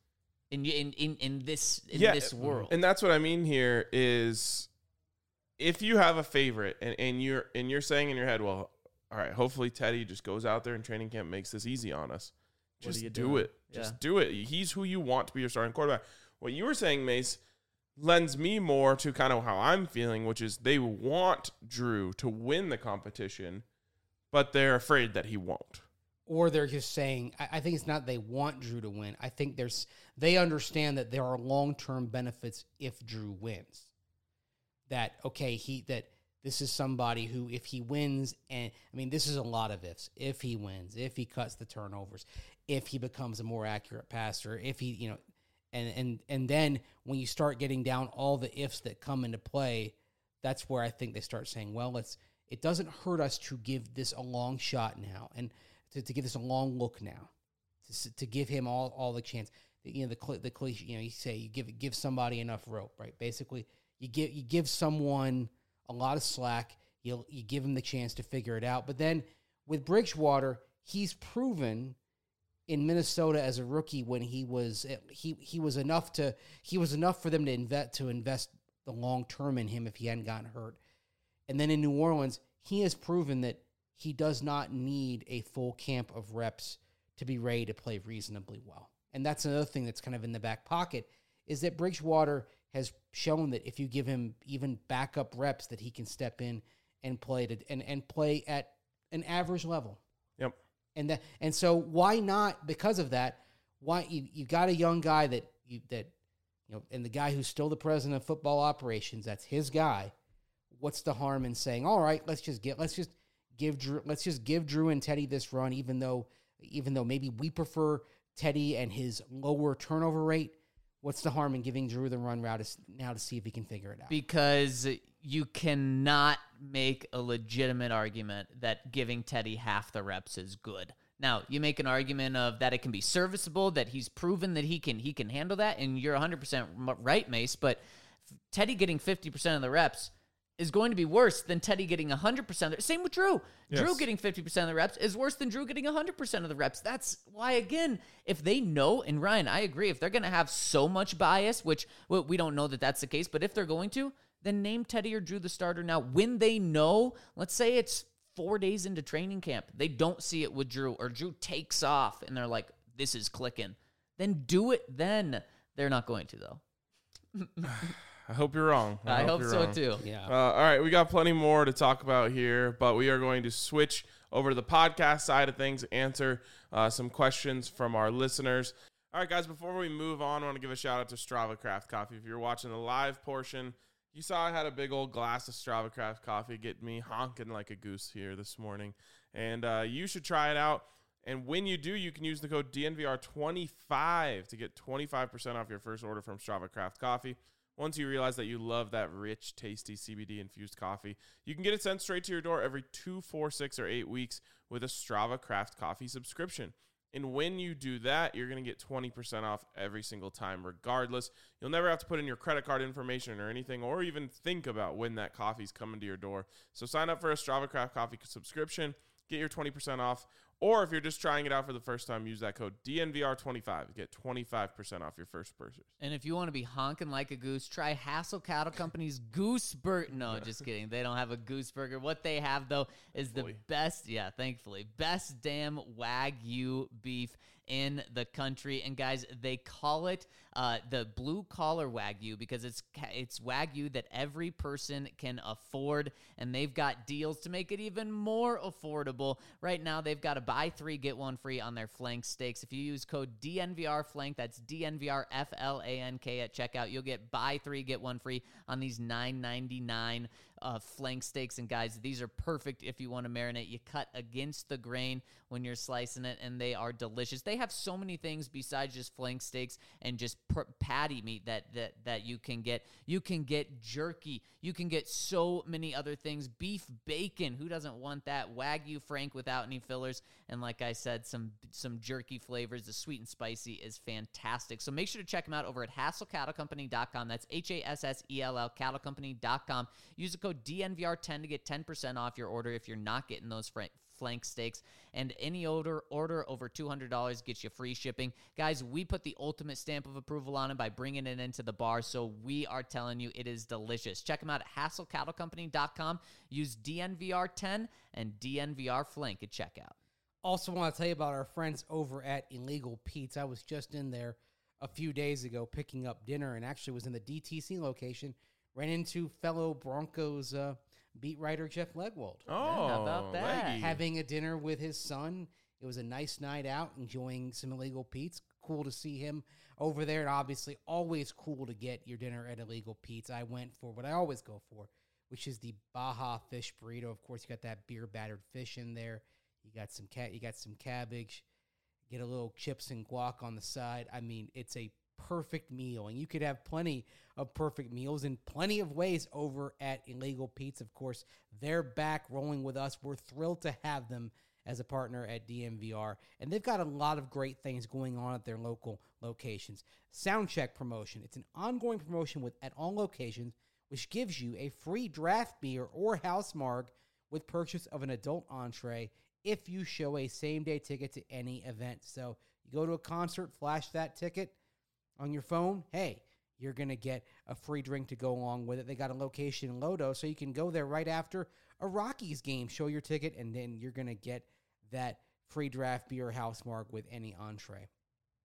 in this world. And that's what I mean here is, if you have a favorite and you're saying in your head, well, all right, hopefully Teddy just goes out there in training camp, makes this easy on us. Just do it. Just do it. He's who you want to be your starting quarterback. What you were saying, Mace, lends me more to kind of how I'm feeling, which is they want Drew to win the competition, but they're afraid that he won't. Or they're just saying, I think it's not they want Drew to win. I think they understand that there are long-term benefits if Drew wins. That this is somebody who, if he wins, and I mean, this is a lot of ifs. If he wins, if he cuts the turnovers, if he becomes a more accurate passer, if he, you know, and then when you start getting down all the ifs that come into play, that's where I think they start saying, well, it doesn't hurt us to give this a long shot now, and to give this a long look now, to give him all the chance. You know, the cliche, you know, you say you give somebody enough rope, right? Basically, you give someone a lot of slack. You give him the chance to figure it out. But then with Bridgewater, he's proven in Minnesota as a rookie when he was enough for them to invest the long term in him if he hadn't gotten hurt. And then in New Orleans, he has proven that he does not need a full camp of reps to be ready to play reasonably well. And that's another thing that's kind of in the back pocket, is that Bridgewater has shown that if you give him even backup reps, that he can step in and play and play at an average level. Yep. And so why not? Because of that, why you got a young guy that and the guy who's still the president of football operations, that's his guy. What's the harm in saying, all right, let's just give Drew and Teddy this run, even though maybe we prefer Teddy and his lower turnover rate. What's the harm in giving Drew the run route now to see if he can figure it out? Because you cannot make a legitimate argument that giving Teddy half the reps is good. Now, you make an argument of that it can be serviceable, that he's proven that he can handle that, and you're 100% right, Mace, but Teddy getting 50% of the reps is going to be worse than Teddy getting 100%. Same with Drew. Yes. Drew getting 50% of the reps is worse than Drew getting 100% of the reps. That's why, again, if they know, and Ryan, I agree, if they're going to have so much bias, which we don't know that that's the case, but if they're going to, then name Teddy or Drew the starter now. When they know, let's say it's 4 days into training camp, they don't see it with Drew, or Drew takes off, and they're like, this is clicking. Then do it then. They're not going to, though. I hope you're wrong. I hope you're so, wrong. too. Yeah. All right, we got plenty more to talk about here, but we are going to switch over to the podcast side of things, answer some questions from our listeners. All right, guys, before we move on, I want to give a shout-out to Strava Craft Coffee. If you're watching the live portion, you saw I had a big old glass of Strava Craft coffee get me honking like a goose here this morning, and you should try it out. And when you do, you can use the code DNVR25 to get 25% off your first order from Strava Craft Coffee. Once you realize that you love that rich, tasty CBD-infused coffee, you can get it sent straight to your door every 2, 4, 6, or 8 weeks with a Strava Craft Coffee subscription. And when you do that, you're going to get 20% off every single time, regardless. You'll never have to put in your credit card information or anything, or even think about when that coffee's coming to your door. So sign up for a Strava Craft Coffee subscription, get your 20% off. Or if you're just trying it out for the first time, use that code DNVR25 to get 25% off your first purchase. And if you want to be honking like a goose, try Hassel Cattle Company's Goose Burger. No, just kidding. They don't have a goose burger. What they have, though, is the best, thankfully, best damn Wagyu beef in the country. And guys, they call it the blue collar Wagyu because it's Wagyu that every person can afford, and they've got deals to make it even more affordable. Right now, they've got a buy 3 get 1 free on their flank steaks. If you use code DNVRFlank, that's DNVRFLANK at checkout, you'll get buy 3 get 1 free on these $9.99 flank steaks. And guys, these are perfect if you want to marinate. You cut against the grain when you're slicing it, and they are delicious. They have so many things besides just flank steaks and just patty meat that you can get. You can get jerky. You can get so many other things. Beef bacon. Who doesn't want that? Wagyu Frank without any fillers. And like I said, some jerky flavors. The sweet and spicy is fantastic. So make sure to check them out over at HassellCattleCompany.com. That's HASSELL CattleCompany.com. Use the code DNVR10 to get 10% off your order if you're not getting those flank steaks. And any order over $200 gets you free shipping. Guys, we put the ultimate stamp of approval on it by bringing it into the bar, so we are telling you it is delicious. Check them out at HassellCattleCompany.com. Use DNVR10 and DNVR Flank at checkout. Also want to tell you about our friends over at Illegal Pete's. I was just in there a few days ago picking up dinner, and actually was in the DTC location. Ran into fellow Broncos beat writer Jeff Legwold. Oh, how about that? Leggy. Having a dinner with his son. It was a nice night out, enjoying some Illegal Pete's. Cool to see him over there, and obviously always cool to get your dinner at Illegal Pete's. I went for what I always go for, which is the Baja fish burrito. Of course, you got that beer battered fish in there. You got some cabbage. Get a little chips and guac on the side. I mean, it's a perfect meal, and you could have plenty of perfect meals in plenty of ways over at Illegal Pete's. Of course, they're back rolling with us. We're thrilled to have them as a partner at DNVR, and they've got a lot of great things going on at their local locations. Soundcheck promotion. It's an ongoing promotion at all locations, which gives you a free draft beer or house marg with purchase of an adult entree if you show a same-day ticket to any event. So you go to a concert, flash that ticket on your phone, hey, you're going to get a free drink to go along with it. They got a location in Lodo, so you can go there right after a Rockies game, show your ticket, and then you're going to get that free draft beer house mark with any entree.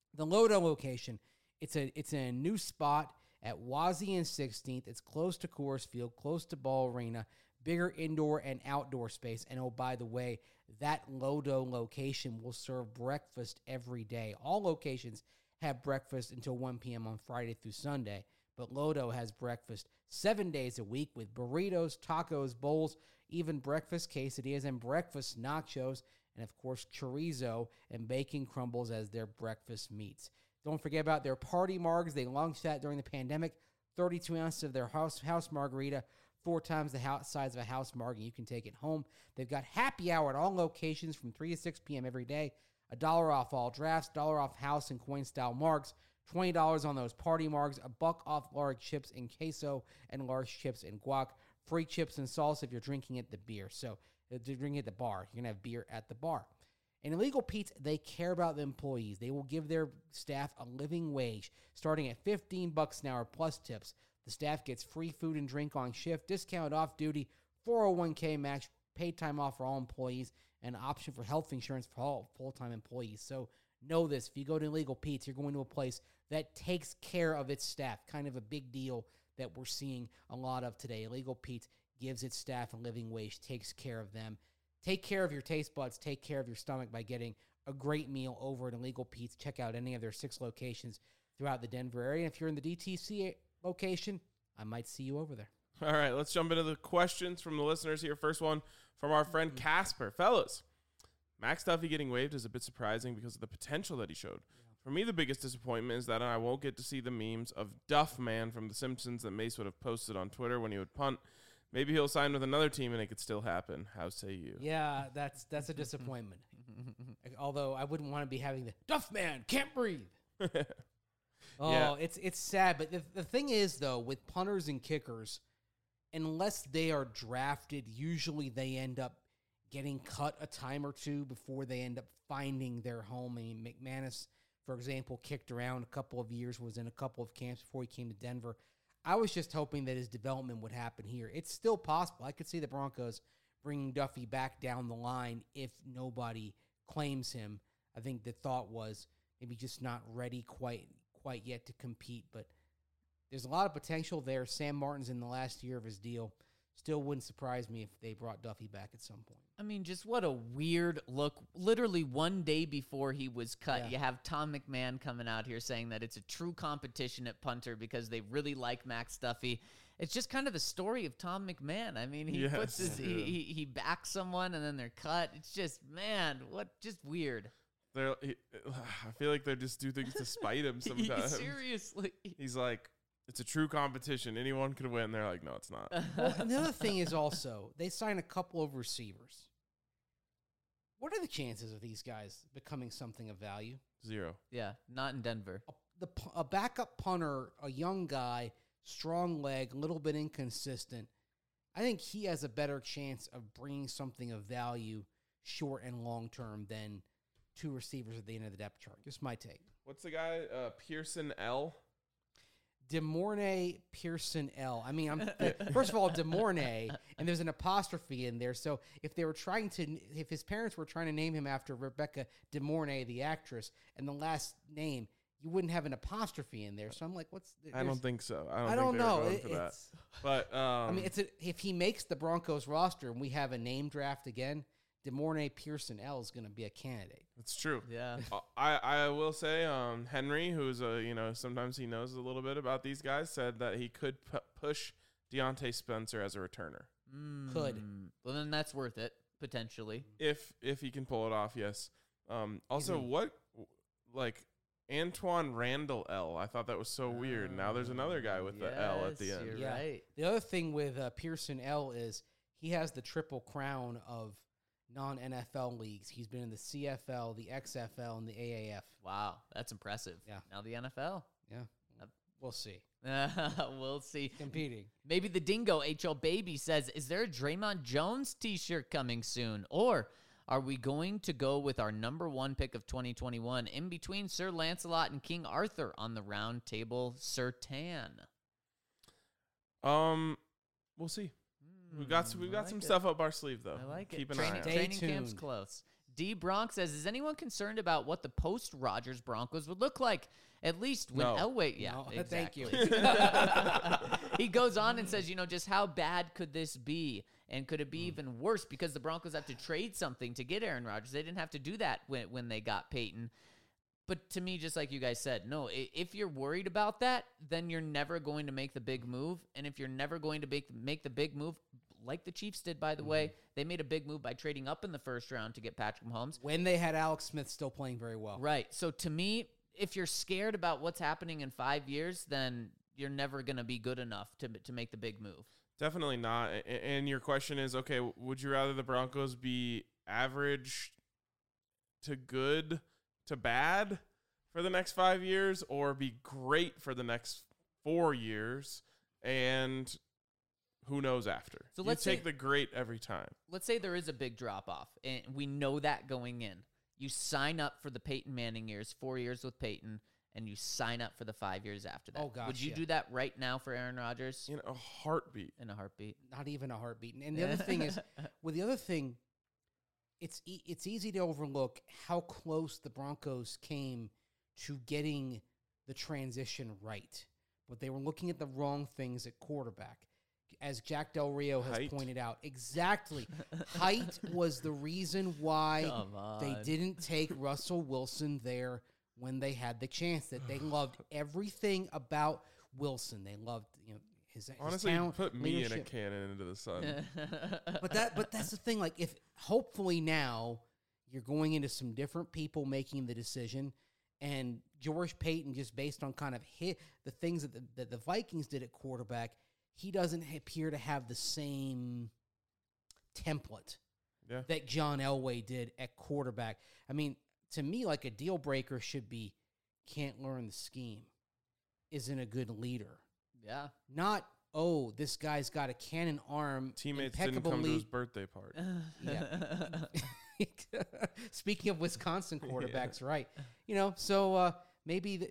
The Lodo location, it's in a new spot at Wazee and 16th. It's close to Coors Field, close to Ball Arena, bigger indoor and outdoor space. And oh, by the way, that Lodo location will serve breakfast every day. All locations have breakfast until 1 p.m. on Friday through Sunday, but Lodo has breakfast 7 days a week with burritos, tacos, bowls, even breakfast quesadillas and breakfast nachos, and of course chorizo and bacon crumbles as their breakfast meats. Don't forget about their party margs. They launched that during the pandemic. 32 ounces of their house margarita, 4 times the size of a house marg, and you can take it home. They've got happy hour at all locations from 3 to 6 p.m. every day. $1 off all drafts, $1 off house and coin style margs, $20 on those party margs, $1 off large chips and queso, and large chips and guac. Free chips and salsa if you're drinking at the beer. So if you're drinking at the bar, you're gonna have beer at the bar. And Illegal Pete's, they care about the employees. They will give their staff a living wage, starting at $15 an hour plus tips. The staff gets free food and drink on shift, discount off duty, 401k match, paid time off for all employees, and an option for health insurance for all full-time employees. So know this, if you go to Illegal Pete's, you're going to a place that takes care of its staff. Kind of a big deal that we're seeing a lot of today. Illegal Pete's gives its staff a living wage, takes care of them. Take care of your taste buds, take care of your stomach by getting a great meal over at Illegal Pete's. Check out any of their 6 locations throughout the Denver area. If you're in the DTC location, I might see you over there. All right, let's jump into the questions from the listeners here. First one from our friend Casper. Fellas, Max Duffy getting waived is a bit surprising because of the potential that he showed. For me, the biggest disappointment is that I won't get to see the memes of Duff Man from The Simpsons that Mace would have posted on Twitter when he would punt. Maybe he'll sign with another team and it could still happen. How say you? Yeah, that's a disappointment. Although I wouldn't want to be having the Duff Man can't breathe. Yeah. It's sad. But the thing is, though, with punters and kickers, unless they are drafted, usually they end up getting cut a time or two before they end up finding their home. I mean, McManus, for example, kicked around a couple of years, was in a couple of camps before he came to Denver. I was just hoping that his development would happen here. It's still possible. I could see the Broncos bringing Duffy back down the line if nobody claims him. I think the thought was maybe just not ready quite yet to compete, but there's a lot of potential there. Sam Martin's in the last year of his deal. Still wouldn't surprise me if they brought Duffy back at some point. I mean, just what a weird look. Literally one day before he was cut, Yeah. You have Tom McMahon coming out here saying that it's a true competition at punter because they really like Max Duffy. It's just kind of the story of Tom McMahon. I mean, he puts his he backs someone and then they're cut. It's just, man, just weird. I feel like they just do things to spite him sometimes. Seriously. He's like, it's a true competition. Anyone could win. They're like, no, it's not. Well, another thing is also, they signed a couple of receivers. What are the chances of these guys becoming something of value? 0. Yeah, not in Denver. A backup punter, a young guy, strong leg, a little bit inconsistent. I think he has a better chance of bringing something of value short and long term than 2 receivers at the end of the depth chart. Just my take. What's the guy? Pearson L. DeMornay Pearson L. I mean, first of all, DeMornay, and there's an apostrophe in there. So if his parents were trying to name him after Rebecca DeMornay, the actress, and the last name, you wouldn't have an apostrophe in there. So I'm like, I don't think so. I don't know. For that. But I mean, if he makes the Broncos roster and we have a name draft again, DeMornay Pearson L is going to be a candidate. It's true. Yeah. I will say, Henry, who's sometimes he knows a little bit about these guys, said that he could push Deontay Spencer as a returner. Could. Well, then that's worth it, potentially. If he can pull it off, yes. Also, Antoine Randall L. I thought that was so weird. Now there's another guy with the L at the end. You're right. The other thing with Pearson L is he has the triple crown of non-NFL leagues. He's been in the CFL, the XFL, and the AAF. Wow, that's impressive. Yeah. Now the NFL. Yeah. We'll see. We'll see. Competing. Maybe the Dingo HL Baby says, is there a Draymond Jones t-shirt coming soon? Or are we going to go with our number 1 pick of 2021 in between Sir Lancelot and King Arthur on the round table, Sir Tan? We'll see. We've got some stuff up our sleeve, though. I like it. Keep an eye on it. Training Stay camp's tuned. close. D. Bronx says, is anyone concerned about what the post-Rodgers Broncos would look like? At least when No. Elway... Yeah, No, exactly. thank you. He goes on and says, just how bad could this be? And could it be even worse because the Broncos have to trade something to get Aaron Rodgers? They didn't have to do that when they got Peyton. But to me, just like you guys said, no, if you're worried about that, then you're never going to make the big move. And if you're never going to make the big move, like the Chiefs did, by the way, they made a big move by trading up in the first round to get Patrick Mahomes. When they had Alex Smith still playing very well. Right. So to me, if you're scared about what's happening in 5 years, then you're never going to be good enough to make the big move. Definitely not. And your question is, okay, would you rather the Broncos be average to good to bad for the next 5 years, or be great for the next 4 years, and who knows after? So you let's take say- the great every time. Let's say there is a big drop-off, and we know that going in. You sign up for the Peyton Manning years, 4 years with Peyton, and you sign up for the 5 years after that. Oh, gosh, Would you yeah. do that right now for Aaron Rodgers? In a heartbeat. In a heartbeat. Not even a heartbeat. And the other thing is, it's easy to overlook how close the Broncos came to getting the transition right. But they were looking at the wrong things at quarterback. As Jack Del Rio has Height. pointed out. Exactly. Height was the reason why Come on. they didn't take Russell Wilson there when they had the chance. That they loved everything about Wilson. They loved, his Honestly, talent, you put me leadership. in a cannon into the sun. But that's the thing. Like, if hopefully now you're going into some different people making the decision, and George Payton, just based on kind of the things that the Vikings did at quarterback, he doesn't appear to have the same template Yeah. that John Elway did at quarterback. I mean, to me, like, a deal breaker should be can't learn the scheme, isn't a good leader. Yeah. Not, this guy's got a cannon arm. Teammates didn't come to his birthday party. Yeah. Speaking of Wisconsin quarterbacks, right? So maybe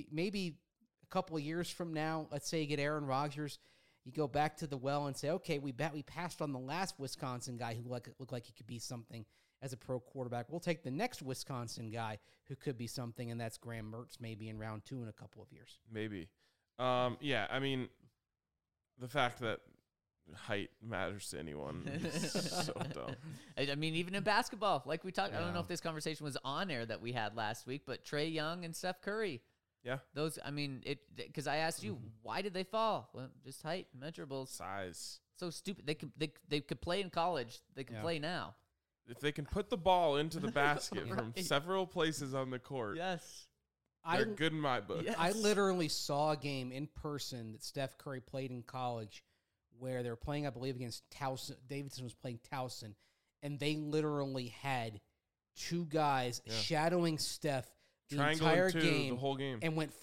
a couple of years from now, let's say you get Aaron Rodgers, you go back to the well and say, okay, we passed on the last Wisconsin guy who looked like he could be something as a pro quarterback. We'll take the next Wisconsin guy who could be something, and that's Graham Mertz maybe in round 2 in a couple of years. Maybe. Yeah, I mean, the fact that height matters to anyone is so dumb. I mean, even in basketball, like we talked, I don't know Yeah. if this conversation was on air that we had last week, but Trae Young and Steph Curry. Yeah. Those, I mean, because I asked you, why did they fall? Well, just height, measurables. Size. So stupid. They could play in college. They can Yeah. play now. If they can put the ball into the basket from Right. several places on the court, Yes. they're good in my book. Yeah. I literally saw a game in person that Steph Curry played in college where they were playing, I believe, against Towson. Davidson was playing Towson, and they literally had two guys shadowing Steph the Triangle entire and two, game, the whole game. and went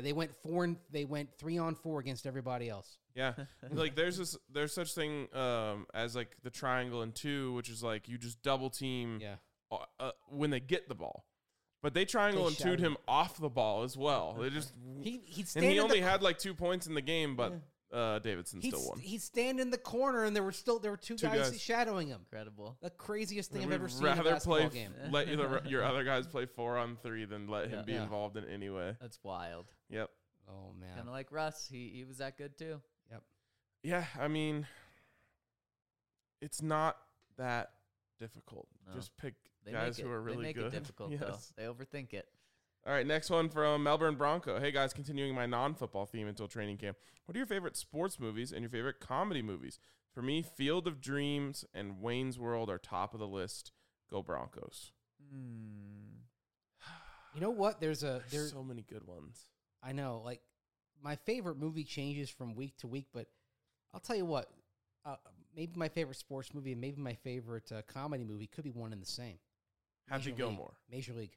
3-on-4 against everybody else. Yeah, like there's such thing as like the triangle and 2, which is like you just double team when they get the ball, but they triangle They and 2'd shouted. him off the ball as well. They just He'd and stand he in only the, had like 2 points in the game, but Davidson still won. He'd stand in the corner, and there were two guys shadowing him. Incredible. The craziest thing I've We'd ever seen in a rather basketball play game. let your other guys play 4-on-3 than let him be Yeah. involved in any way. That's wild. Yep. Oh man. Kind of like Russ. He was that good too. Yep. Yeah, I mean, it's not that difficult. No. Just pick They guys make who it, are really they make good. it difficult though. They overthink it. All right, next one from Melbourne Bronco. Hey guys, continuing my non-football theme until training camp. What are your favorite sports movies and your favorite comedy movies? For me, Field of Dreams and Wayne's World are top of the list. Go Broncos. You know what? There's so many good ones. I know, like, my favorite movie changes from week to week, but I'll tell you what, maybe my favorite sports movie and maybe my favorite comedy movie could be one and the same. Happy Gilmore. Major League.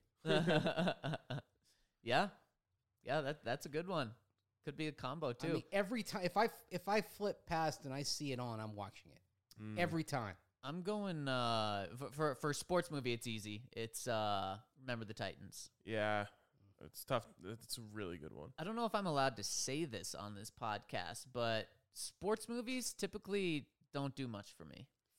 Yeah, that's a good one. Could be a combo too. I mean, every time if I flip past and I see it on, I'm watching it every time. I'm going for sports movie. It's easy. It's Remember the Titans. Yeah, it's tough. It's a really good one. I don't know if I'm allowed to say this on this podcast, but sports movies typically don't do much for me.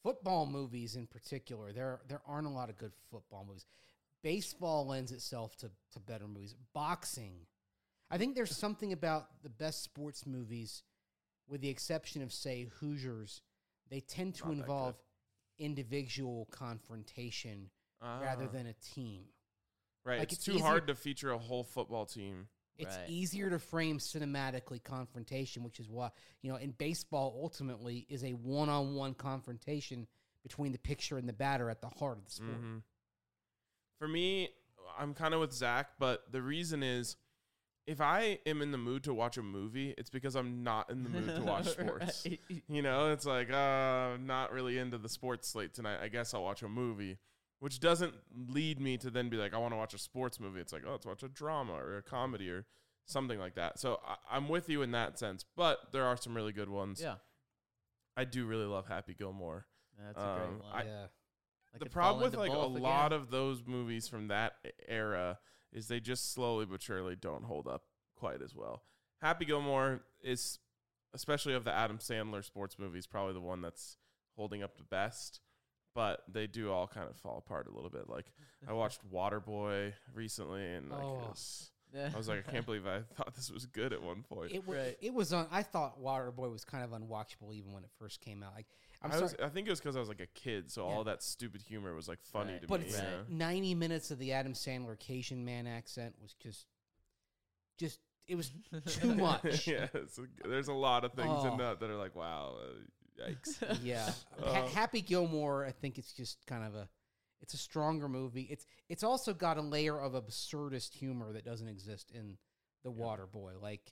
Football movies in particular, there aren't a lot of good football movies. Baseball lends itself to better movies. Boxing. I think there's something about the best sports movies, with the exception of, say, Hoosiers, they tend to Not that involve individual confrontation rather than a team. Right. Like, it's it's too hard to feature a whole football team. It's Right. easier to frame cinematically confrontation, which is why, in baseball, ultimately, is a one-on-one confrontation between the pitcher and the batter at the heart of the sport. Mm-hmm. For me, I'm kind of with Zach, but the reason is, if I am in the mood to watch a movie, it's because I'm not in the mood to watch sports. Right. It's like, I'm not really into the sports slate tonight. I guess I'll watch a movie, which doesn't lead me to then be like, I want to watch a sports movie. It's like, let's watch a drama or a comedy or something like that. So I'm with you in that sense, but there are some really good ones. Yeah. I do really love Happy Gilmore. That's a great one. Yeah. Like The it problem fall with into like a both lot again. of those movies from that era is they just slowly but surely don't hold up quite as well. Happy Gilmore is, especially of the Adam Sandler sports movies, probably the one that's holding up the best, but they do all kind of fall apart a little bit. Like I watched Waterboy recently, and like I was like, I can't believe I thought this was good at one point. It was on. I thought Waterboy was kind of unwatchable even when it first came out. Like, I think it was because I was like a kid, so Yeah. all that stupid humor was like funny Right. to but me. it's you know? 90 minutes of the Adam Sandler Cajun man accent was just it was too much. Yeah, there's a lot of things Oh. in that are like, wow, yikes. Yeah. Uh, Happy Gilmore, I think it's just kind of it's a stronger movie. It's also got a layer of absurdist humor that doesn't exist in The Waterboy. Like,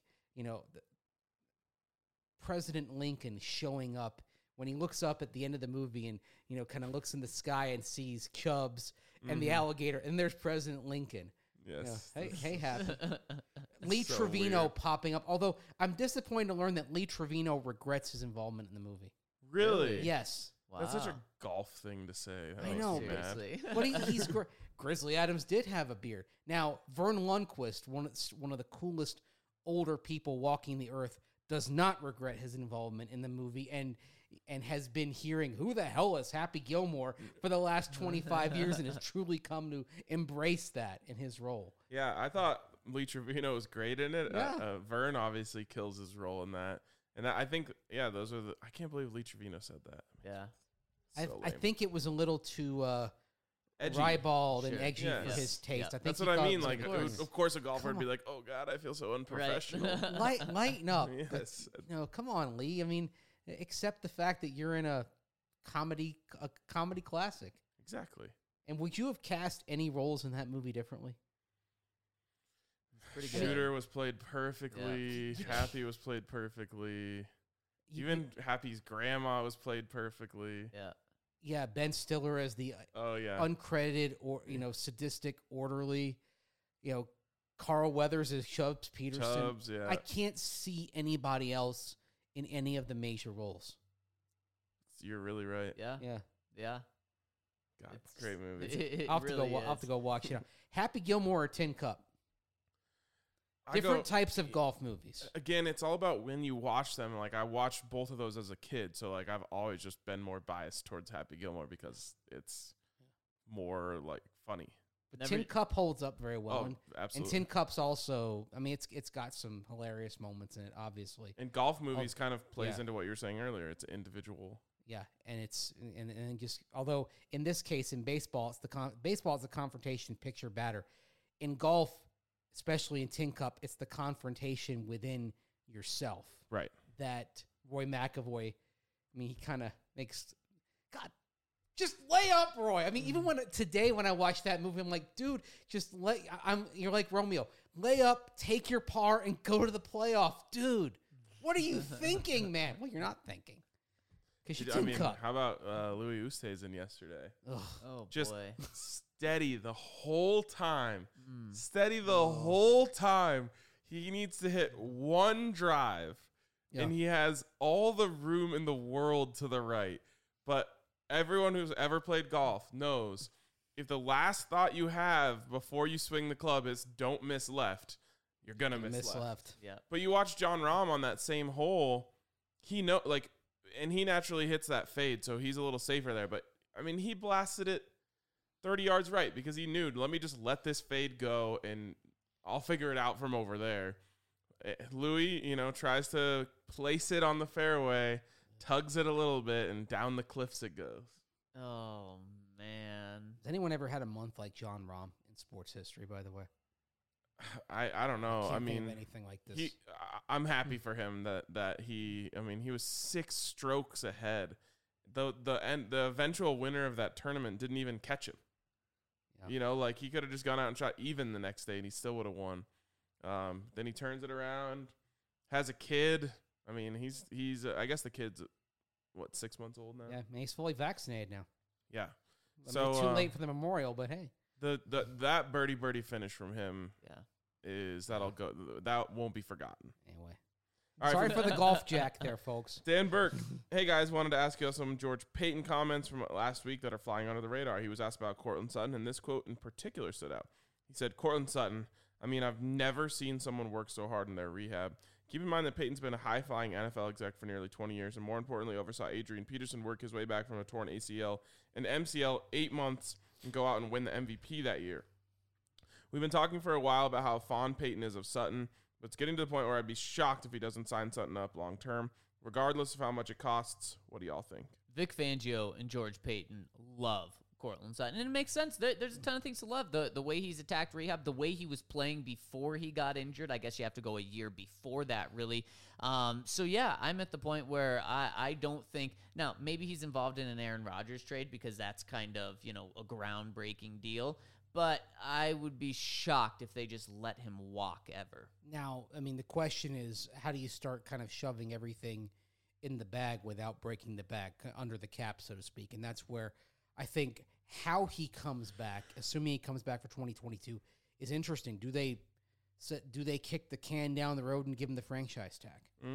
President Lincoln showing up when he looks up at the end of the movie and, kind of looks in the sky and sees Chubbs and the alligator, and there's President Lincoln. Yes. Hey, Happy. Lee So Trevino weird. popping up. Although I'm disappointed to learn that Lee Trevino regrets his involvement in the movie. Really? Yes. Wow. That's such a golf thing to say. That I makes know, me mad. Seriously. But he's Grizzly Adams did have a beard. Now, Vern Lundquist, one of the coolest older people walking the earth, does not regret his involvement in the movie and has been hearing, who the hell is Happy Gilmore for the last 25 years and has truly come to embrace that in his role. Yeah, I thought Lee Trevino was great in it. Yeah. Vern obviously kills his role in that. And I think, those are I can't believe Lee Trevino said that. Yeah. So I lame. think it was a little too Edgy. ribald and Sure. edgy Yeah. for Yes. his taste. Yeah. I think That's he what I thought it mean. was Like, good. of course, a golfer would Come be like, "Oh God, I feel so Right. unprofessional." lighten up. Yes. Come on, Lee. I mean, accept the fact that you're in a comedy classic. Exactly. And would you have cast any roles in that movie differently? Pretty good. Shooter was played perfectly. Happy was played perfectly. Even Happy's grandma was played perfectly. Yeah. Yeah, Ben Stiller as the Oh yeah. uncredited or sadistic orderly. Carl Weathers as Chubbs Peterson. Chubbs, yeah. I can't see anybody else in any of the major roles. You're really right. Yeah. Yeah, Yeah. God, It's great movie. It I'll have really I'll have is. to go watch it. Happy Gilmore or Tin Cup. Different types of golf movies. Again, it's all about when you watch them. Like, I watched both of those as a kid, so like I've always just been more biased towards Happy Gilmore because it's more like funny. But Never- Tin Cup holds up very well. Oh, And absolutely. Tin Cup's also, I mean, it's got some hilarious moments in it, obviously. And golf movies kind of plays yeah. into what you were saying earlier. It's individual. Yeah, and it's and just although in this case in baseball, baseball is the confrontation pitcher batter. In golf, especially in Tin Cup, it's the confrontation within yourself. Right. That Roy McAvoy, I mean, he kind of makes God. Just lay up, Roy. I mean, even today when I watched that movie, I'm like, dude, just you're like Romeo. Lay up, take your par, and go to the playoff, dude. What are you thinking, man? Well, you're not thinking because you're I Tin mean, Cup. how about Louis Oosthuizen yesterday? Ugh. Oh Just boy. steady the whole time. Mm. Steady the whole time. He needs to hit one drive, Yeah. and he has all the room in the world to the right. But everyone who's ever played golf knows if the last thought you have before you swing the club is don't miss left, you're going to miss left. Yeah. But you watch John Rahm on that same hole, he know like and he naturally hits that fade, so he's a little safer there. But I mean, he blasted it 30 yards right because he knew, let me just let this fade go and I'll figure it out from over there. Louis, tries to place it on the fairway, tugs it a little bit, and down the cliffs it goes. Oh, man. Has anyone ever had a month like John Rahm in sports history, by the way? I don't know. Can't think of anything like this. I'm happy for him that he was 6 strokes ahead. The eventual winner of that tournament didn't even catch him. Yeah. He could have just gone out and shot even the next day and he still would have won. Then he turns it around, has a kid. I mean, he's I guess the kid's 6 months old now. Yeah, he's fully vaccinated now. Yeah. So too late for the memorial, but hey. That birdie finish from him, that won't be forgotten. Anyway, all sorry right, for the golf jack there, folks. Dan Burke, hey guys, wanted to ask you some George Payton comments from last week that are flying under the radar. He was asked about Cortland Sutton, and this quote in particular stood out. He said, "Cortland Sutton, I've never seen someone work so hard in their rehab. Keep in mind that Peyton's been a high-flying NFL exec for nearly 20 years, and more importantly, oversaw Adrian Peterson work his way back from a torn ACL and MCL 8 months and go out and win the MVP that year. We've been talking for a while about how fond Peyton is of Sutton, but it's getting to the point where I'd be shocked if he doesn't sign Sutton up long-term. Regardless of how much it costs, what do y'all think?" Vic Fangio and George Payton love Cortland Sutton, and it makes sense. There's a ton of things to love. The way he's attacked rehab, the way he was playing before he got injured. I guess you have to go a year before that, really. So yeah, I'm at the point where I don't think now maybe he's involved in an Aaron Rodgers trade because that's kind of a groundbreaking deal. But I would be shocked if they just let him walk ever. Now, the question is, how do you start kind of shoving everything in the bag without breaking the bag under the cap, so to speak? And that's where I think how he comes back, assuming he comes back for 2022, is interesting. Do they kick the can down the road and give him the franchise tag?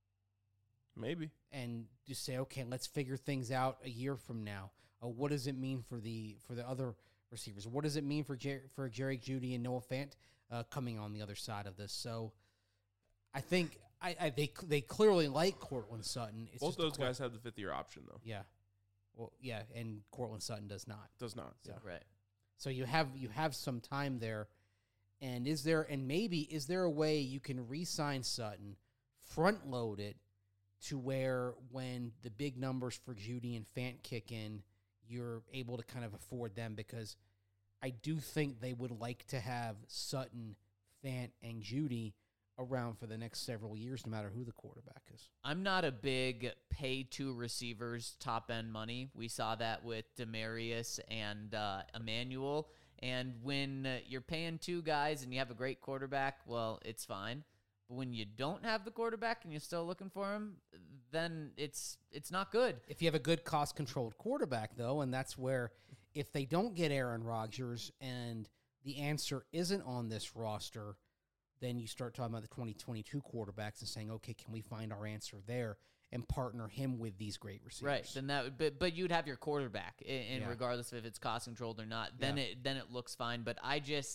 Maybe. And just say, okay, let's figure things out a year from now. What does it mean for the other receivers? What does it mean for Jerry Jeudy and Noah Fant coming on the other side of this? So I think they clearly like Cortland Sutton. It's both those guys have the 5th-year option, though. Yeah. Well, yeah, and Cortland Sutton does not. Does not. So, Right. So you have some time there, and is there a way you can re-sign Sutton, front load it to where when the big numbers for Jeudy and Fant kick in, you're able to kind of afford them, because I do think they would like to have Sutton, Fant, and Jeudy around for the next several years, no matter who the quarterback is. I'm not a big pay to receivers top end money. We saw that with Demarius and Emmanuel. And when you're paying 2 guys and you have a great quarterback, well, it's fine. But when you don't have the quarterback and you're still looking for him, then it's not good. If you have a good cost-controlled quarterback, though, and that's where if they don't get Aaron Rodgers and the answer isn't on this roster, then you start talking about the 2022 quarterbacks and saying, okay, can we find our answer there and partner him with these great receivers? Right. Then that would, but you'd have your quarterback, and regardless of if it's cost controlled or not, then it looks fine. But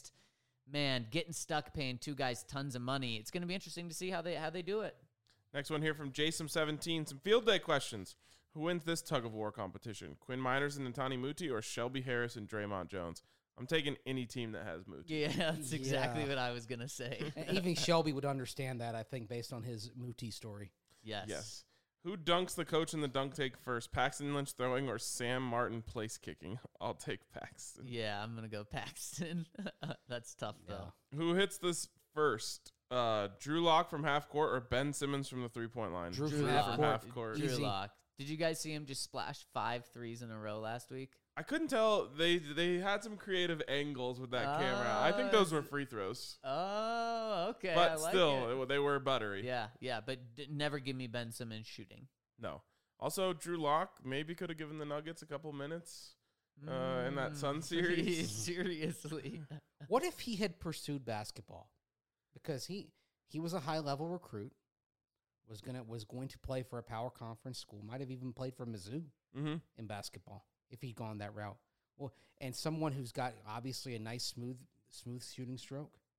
getting stuck paying 2 guys tons of money, it's going to be interesting to see how they do it. Next one here from Jason17. Some field day questions. Who wins this tug of war competition? Quinn Miners and Ntani Muti, or Shelby Harris and Draymond Jones? I'm taking any team that has Muti. Yeah, that's exactly what I was going to say. Even Shelby would understand that, I think, based on his Muti story. Yes. Who dunks the coach in the dunk take first? Paxton Lynch throwing or Sam Martin place kicking? I'll take Paxton. Yeah, I'm going to go Paxton. That's tough, though. Who hits this first? Drew Lock from half court or Ben Simmons from the 3-point line? Drew from half court. Drew Lock. Did you guys see him just splash 5 threes in a row last week? I couldn't tell. They had some creative angles with that camera. I think those were free throws. Oh, okay. But still, they were buttery. Yeah, but never give me Ben Simmons shooting. No. Also, Drew Lock maybe could have given the Nuggets a couple minutes in that Sun series. Seriously. What if he had pursued basketball? Because he was a high-level recruit, was going to play for a power conference school, might have even played for Mizzou in basketball if he'd gone that route. Well, and someone who's got obviously a nice smooth shooting stroke.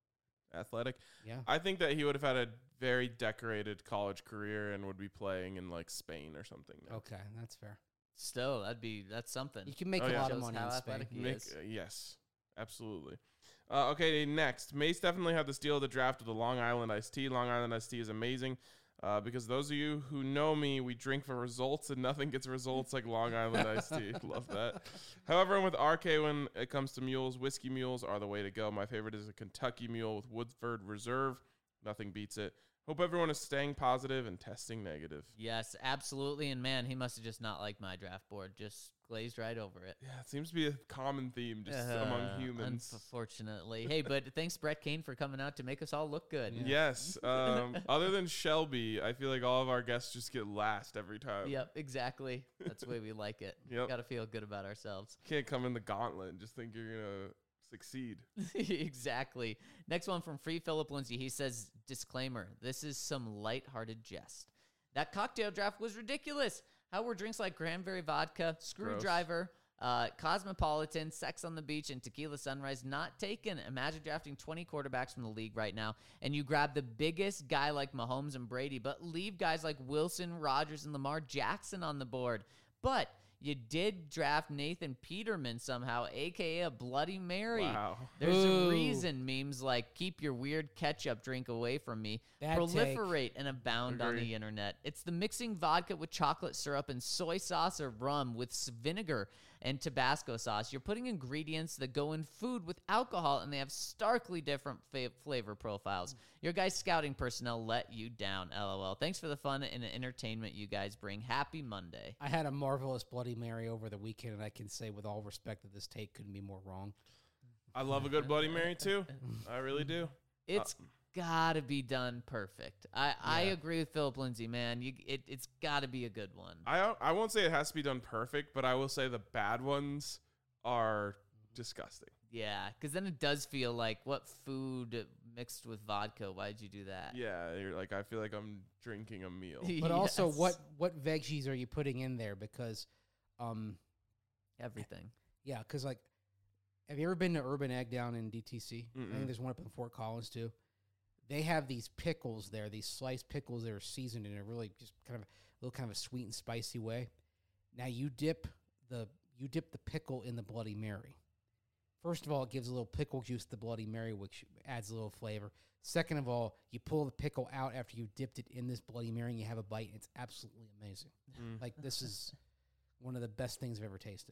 athletic. Yeah. I think that he would have had a very decorated college career and would be playing in like Spain or something. Now. Okay, that's fair. Still, that's something. You can make Oh, a yeah. lot of Shows money how in Spain. athletic he Make, is. yes, absolutely. Okay, next. Mace definitely had the steal of the draft with the Long Island iced tea. Long Island iced tea is amazing because those of you who know me, we drink for results and nothing gets results like Long Island iced tea. Love that. However, I'm with RK when it comes to mules. Whiskey mules are the way to go. My favorite is a Kentucky mule with Woodford Reserve. Nothing beats it. Hope everyone is staying positive and testing negative. Yes, absolutely. And man, he must have just not liked my draft board. Just glazed right over it. Yeah, it seems to be a common theme just among humans. Unfortunately. Hey, but thanks, Brett Kane, for coming out to make us all look good. Yes. Other than Shelby, I feel like all of our guests just get last every time. Yep, exactly. That's the way we like it. Yep. Got to feel good about ourselves. Can't come in the gauntlet and just think you're going to succeed. Exactly. Next one from Free Philip Lindsay. He says, disclaimer, this is some lighthearted jest. That cocktail draft was ridiculous. How were drinks like cranberry vodka, screwdriver, Cosmopolitan, Sex on the Beach, and Tequila Sunrise not taken? Imagine drafting 20 quarterbacks from the league right now, and you grab the biggest guy like Mahomes and Brady, but leave guys like Wilson, Rodgers, and Lamar Jackson on the board. But you did draft Nathan Peterman somehow, a.k.a. a Bloody Mary. Wow. There's Ooh. a reason memes like keep your weird ketchup drink away from me Bad proliferate and abound on Agree. the internet. It's the mixing vodka with chocolate syrup and soy sauce or rum with vinegar and Tabasco sauce. You're putting ingredients that go in food with alcohol, and they have starkly different flavor profiles. Your guys' scouting personnel let you down, LOL. Thanks for the fun and entertainment you guys bring. Happy Monday. I had a marvelous Bloody Mary over the weekend, and I can say with all respect that this take couldn't be more wrong. I love a good Bloody Mary too. I really do. It's gotta be done perfect. I agree with Philip Lindsay, man. It's gotta be a good one. I won't say it has to be done perfect, but I will say the bad ones are disgusting. Yeah, because then it does feel like, what food mixed with vodka? Why'd you do that? Yeah, you're like, I feel like I'm drinking a meal. But also, Yes. what veggies are you putting in there? Because, Everything. yeah, because like, have you ever been to Urban Egg down in DTC? I Mm-mm. think there's one up in Fort Collins too. They have these pickles there, these sliced pickles that are seasoned in a really just kind of a sweet and spicy way. Now you dip the pickle in the Bloody Mary. First of all, it gives a little pickle juice to the Bloody Mary, which adds a little flavor. Second of all, you pull the pickle out after you dipped it in this Bloody Mary and you have a bite, and it's absolutely amazing. Like, this is one of the best things I've ever tasted.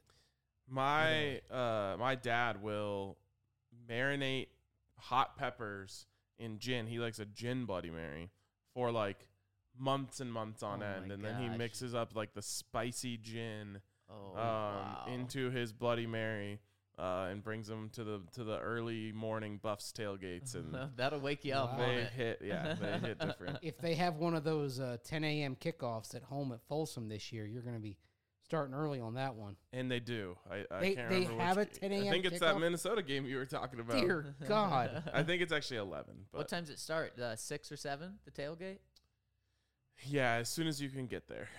My dad will marinate hot peppers in gin. He likes a gin Bloody Mary for like months and months on Oh end, my and then he gosh. mixes up like the spicy gin Oh, wow. into his Bloody Mary. And brings them to the early morning Buffs tailgates, and That'll wake you up, Wow. won't they it? hit different. If they have one of those 10 a.m. kickoffs at home at Folsom this year, you're going to be starting early on that one. And they do. I They- can't they remember have which a 10 I a.m. think it's that kickoff? Minnesota game you were talking about. Dear God. I think it's actually 11. But What time's it start? 6 or 7, the tailgate? yeah, as soon as you can get there.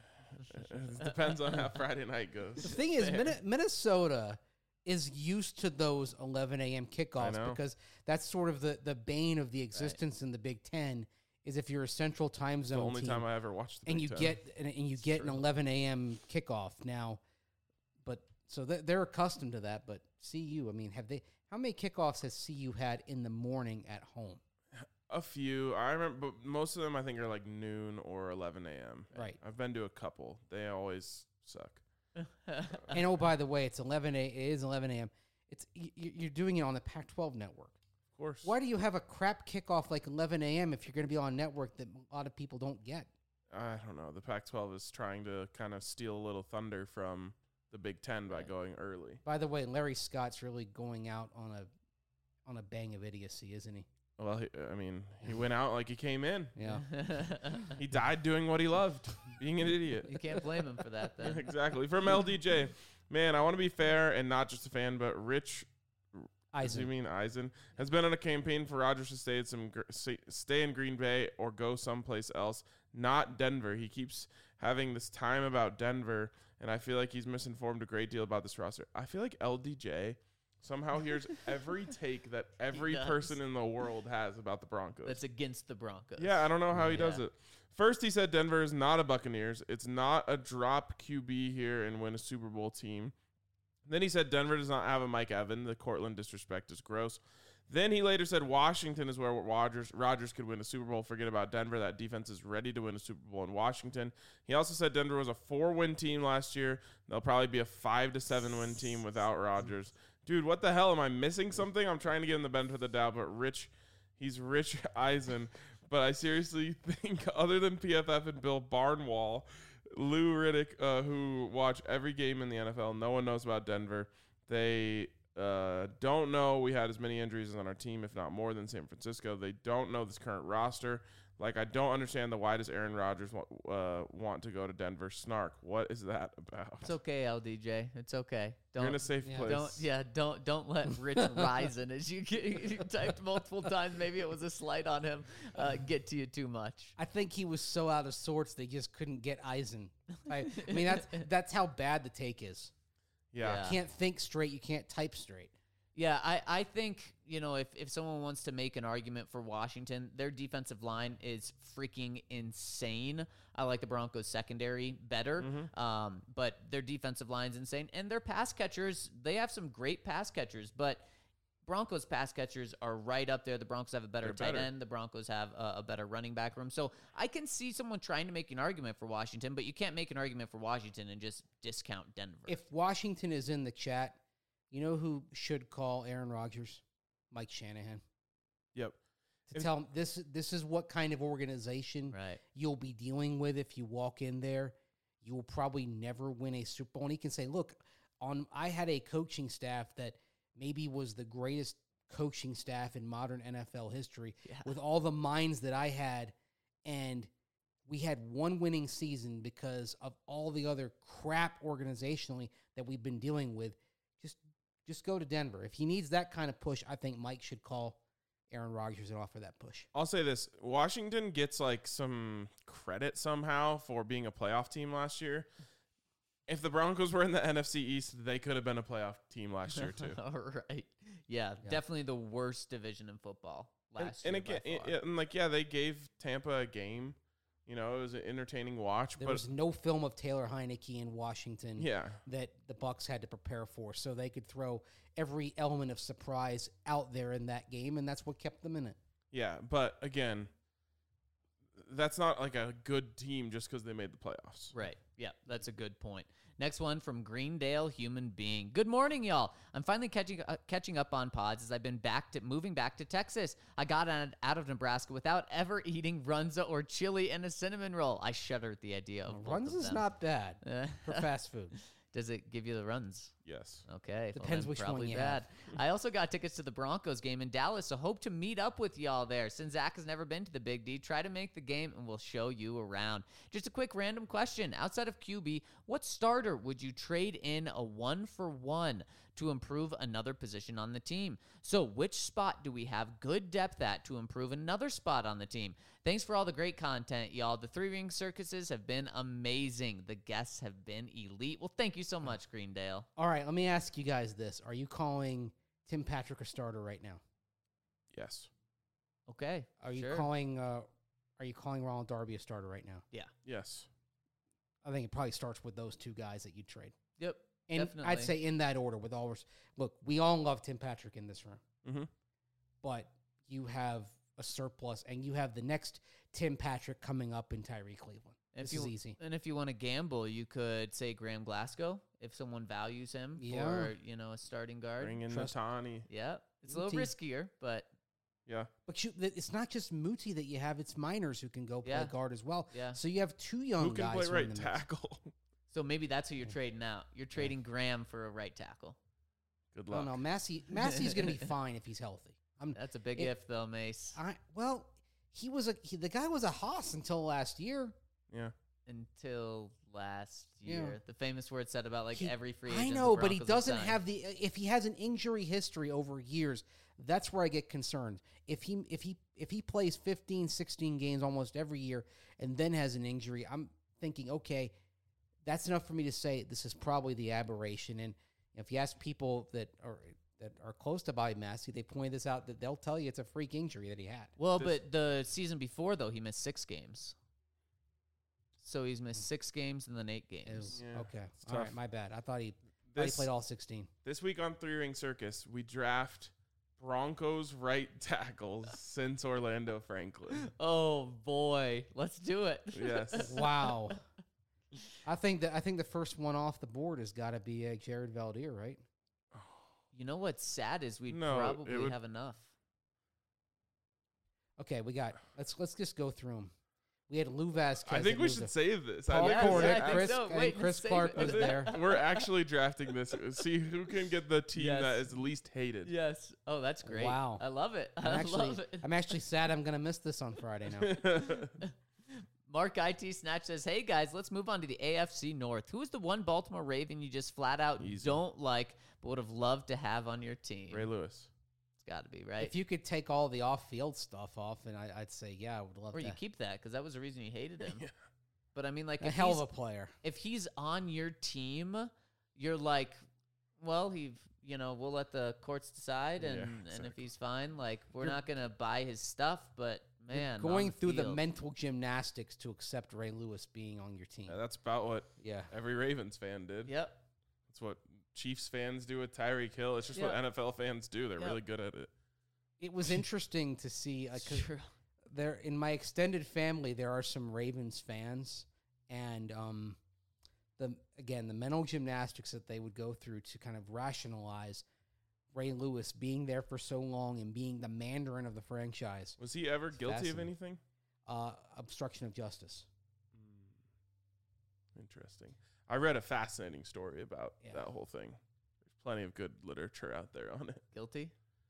It depends on how Friday night The goes. thing is, Minnesota is used to those 11 a.m. kickoffs know. because that's sort of the bane of the existence in the Big Ten is if you're a central time The zone only team time I ever watched the and Big you Ten. get an 11 a.m. kickoff now. But so they're accustomed to that. But CU, I mean, how many kickoffs has CU had in the morning at home? A few. I remember, but most of them I think are like noon or 11 a.m. Right. I've been to a couple. They always suck. And oh, by the way, it is 11 a.m. You're doing it on the Pac-12 network. Of course. Why do you have a crap kickoff like 11 a.m. if you're going to be on a network that a lot of people don't get? I don't know. The Pac-12 is trying to kind of steal a little thunder from the Big Ten by going early. By the way, Larry Scott's really going out on a bang of idiocy, isn't he? Well, he went out like he came in. Yeah. He died doing what he loved, being an idiot. You can't blame him for that, then. Exactly. From LDJ. Man, I want to be fair and not just a fan, but Rich, Eisen. you mean Eisen, has been on a campaign for Rodgers to stay in Green Bay or go someplace else, not Denver. He keeps having this time about Denver, and I feel like he's misinformed a great deal about this roster. I feel like LDJ Somehow hears every take that every does. person in the world has about the Broncos. That's against the Broncos. Yeah, I don't know how he does Yeah. it. First, he said Denver is not a Buccaneers. It's not a drop QB here and win a Super Bowl team. Then he said Denver does not have a Mike Evans. The Cortland disrespect is gross. Then he later said Washington is where Rodgers could win a Super Bowl. Forget about Denver. That defense is ready to win a Super Bowl in Washington. He also said Denver was a 4-win team last year. They'll probably be a 5 to 7-win team without Rodgers. Dude, what the hell? Am I missing something? I'm trying to give him the benefit of the doubt, but he's Rich Eisen. But I seriously think other than PFF and Bill Barnwell, Lou Riddick, who watch every game in the NFL, no one knows about Denver. They don't know we had as many injuries on our team, if not more, than San Francisco. They don't know this current roster. Like, I don't understand why does Aaron Rodgers want to go to Denver? Snark. What is that about? It's okay, LDJ. It's okay. You're in a safe place. Don't let Rich Risen, as you typed multiple times. Maybe it was a slight on him. Get to you too much. I think he was so out of sorts they just couldn't get Eisen. I mean, that's how bad the take is. Yeah. You can't think straight. You can't type straight. Yeah, I think, if someone wants to make an argument for Washington, their defensive line is freaking insane. I like the Broncos secondary better, but their defensive line's insane. And their pass catchers, they have some great pass catchers, but Broncos pass catchers are right up there. The Broncos have a better tight end. The Broncos have a better running back room. So I can see someone trying to make an argument for Washington, but you can't make an argument for Washington and just discount Denver. If Washington is in the chat, you know who should call Aaron Rodgers? Mike Shanahan. Yep. To tell him this is what kind of organization you'll be dealing with if you walk in there. You will probably never win a Super Bowl. And he can say, look, I had a coaching staff that maybe was the greatest coaching staff in modern NFL history with all the minds that I had, and we had one winning season because of all the other crap organizationally that we've been dealing with. Just go to Denver. If he needs that kind of push, I think Mike should call Aaron Rodgers and offer that push. I'll say this. Washington gets like some credit somehow for being a playoff team last year. If the Broncos were in the NFC East, they could have been a playoff team last year too. All right. Yeah, definitely the worst division in football last year. And again, they gave Tampa a game. It was an entertaining watch. There was no film of Taylor Heineke in Washington Yeah. that the Bucs had to prepare for, so they could throw every element of surprise out there in that game, and that's what kept them in it. Yeah, but again, that's not like a good team just because they made the playoffs. Right. Yeah, that's a good point. Next one from Greendale Human Being. Good morning, y'all. I'm finally catching up on pods as I've been moving back to Texas. I got out of Nebraska without ever eating runza or chili and a cinnamon roll. I shudder at the idea of both of Runza's them. not bad for fast food. Does it give you the runs? Yes. Okay. Depends then which one probably you bad. I also got tickets to the Broncos game in Dallas, so hope to meet up with y'all there. Since Zach has never been to the Big D, try to make the game and we'll show you around. Just a quick random question. Outside of QB, what starter would you trade in a 1-for-1 to improve another position on the team? So which spot do we have good depth at to improve another spot on the team? Thanks for all the great content, y'all. The 3-ring circuses have been amazing. The guests have been elite. Well, thank you so much, Greendale. All right, let me ask you guys this. Are you calling Tim Patrick a starter right now? Yes. Okay. Are you sure. calling Ronald Darby a starter right now? Yeah. Yes. I think it probably starts with those two guys that you trade. Yep. And definitely. I'd say in that order with all look, we all love Tim Patrick in this room. Mm-hmm. But you have a surplus and you have the next Tim Patrick coming up in Tyree Cleveland. This is easy. And if you want to gamble, you could say Graham Glasgow if someone values him for, a starting guard. Bring in Natani. Yeah. It's a little riskier, but yeah. But it's not just Muti that you have, it's Miners who can go play guard as well. Yeah. So you have two young guys. Who can play right tackle? So maybe that's who you're trading out. You're trading Graham for a right tackle. Good luck. Oh, no, Massey's going to be fine if he's healthy. That's a big if, though, Mace. The guy was a hoss until last year. Yeah. Until last year. The famous word said about every free agent. I know, but he doesn't have if he has an injury history over years, that's where I get concerned. If he plays 15, 16 games almost every year and then has an injury, I'm thinking, okay, that's enough for me to say this is probably the aberration. And if you ask people that are that are close to Bobby Massey, they pointed this out that they'll tell you it's a freak injury that he had. Well, but the season before, though, he missed 6 games. So he's missed 6 games and then 8 games. Yeah, Okay, it's all tough. right, my bad. I thought he This, played all 16. this week on Three Ring Circus, we draft Broncos right tackles since Orlando Franklin. Oh, boy. Let's do it. Yes. Wow. I think the first one off the board has got to be Jared Valdir, right? You know what's sad is we'd No, it probably would- have enough. Okay, we got. Let's just go through them. We had Lou Vasquez. I think that we moved should to- save this. Paul Yeah, Cornick, I think Chris, so. and Wait, let's Chris save Clark it. was there. We're actually drafting this. See who can get the team Yes. that is least hated. Yes. Oh, that's great. Wow. I love it. I'm I actually, love it. I'm actually sad I'm gonna miss this on Friday now. Mark IT Snatch says, hey, guys, let's move on to the AFC North. Who is the one Baltimore Raven you just flat out Easy. don't like but would have loved to have on your team? Ray Lewis. It's got to be, right? If you could take all the off-field stuff off, and I'd say, yeah, I would love or you that. keep that because that was the reason you hated him. Yeah. But I mean, like, A if hell he's, of a player. if he's on your team, you're like, well, we'll let the courts decide, and, Yeah, and if exactly. he's fine, like, we're You're- not gonna buy his stuff. But You're man, going on through the field- mental gymnastics to accept Ray Lewis being on your team. Yeah, that's about what Yeah. every Ravens fan did. Yep. That's what Chiefs fans do with Tyreek Hill. It's just Yeah. what NFL fans do. They're Yeah. really good at it. It was interesting to see It's because true. there in my extended family there are some Ravens fans, and the mental gymnastics that they would go through to kind of rationalize Ray Lewis being there for so long and being the Mandarin of the franchise. Was he ever guilty of fascinating. anything? Obstruction of justice. Interesting. I read a fascinating story about Yeah. that whole thing. There's plenty of good literature out there on it. Guilty.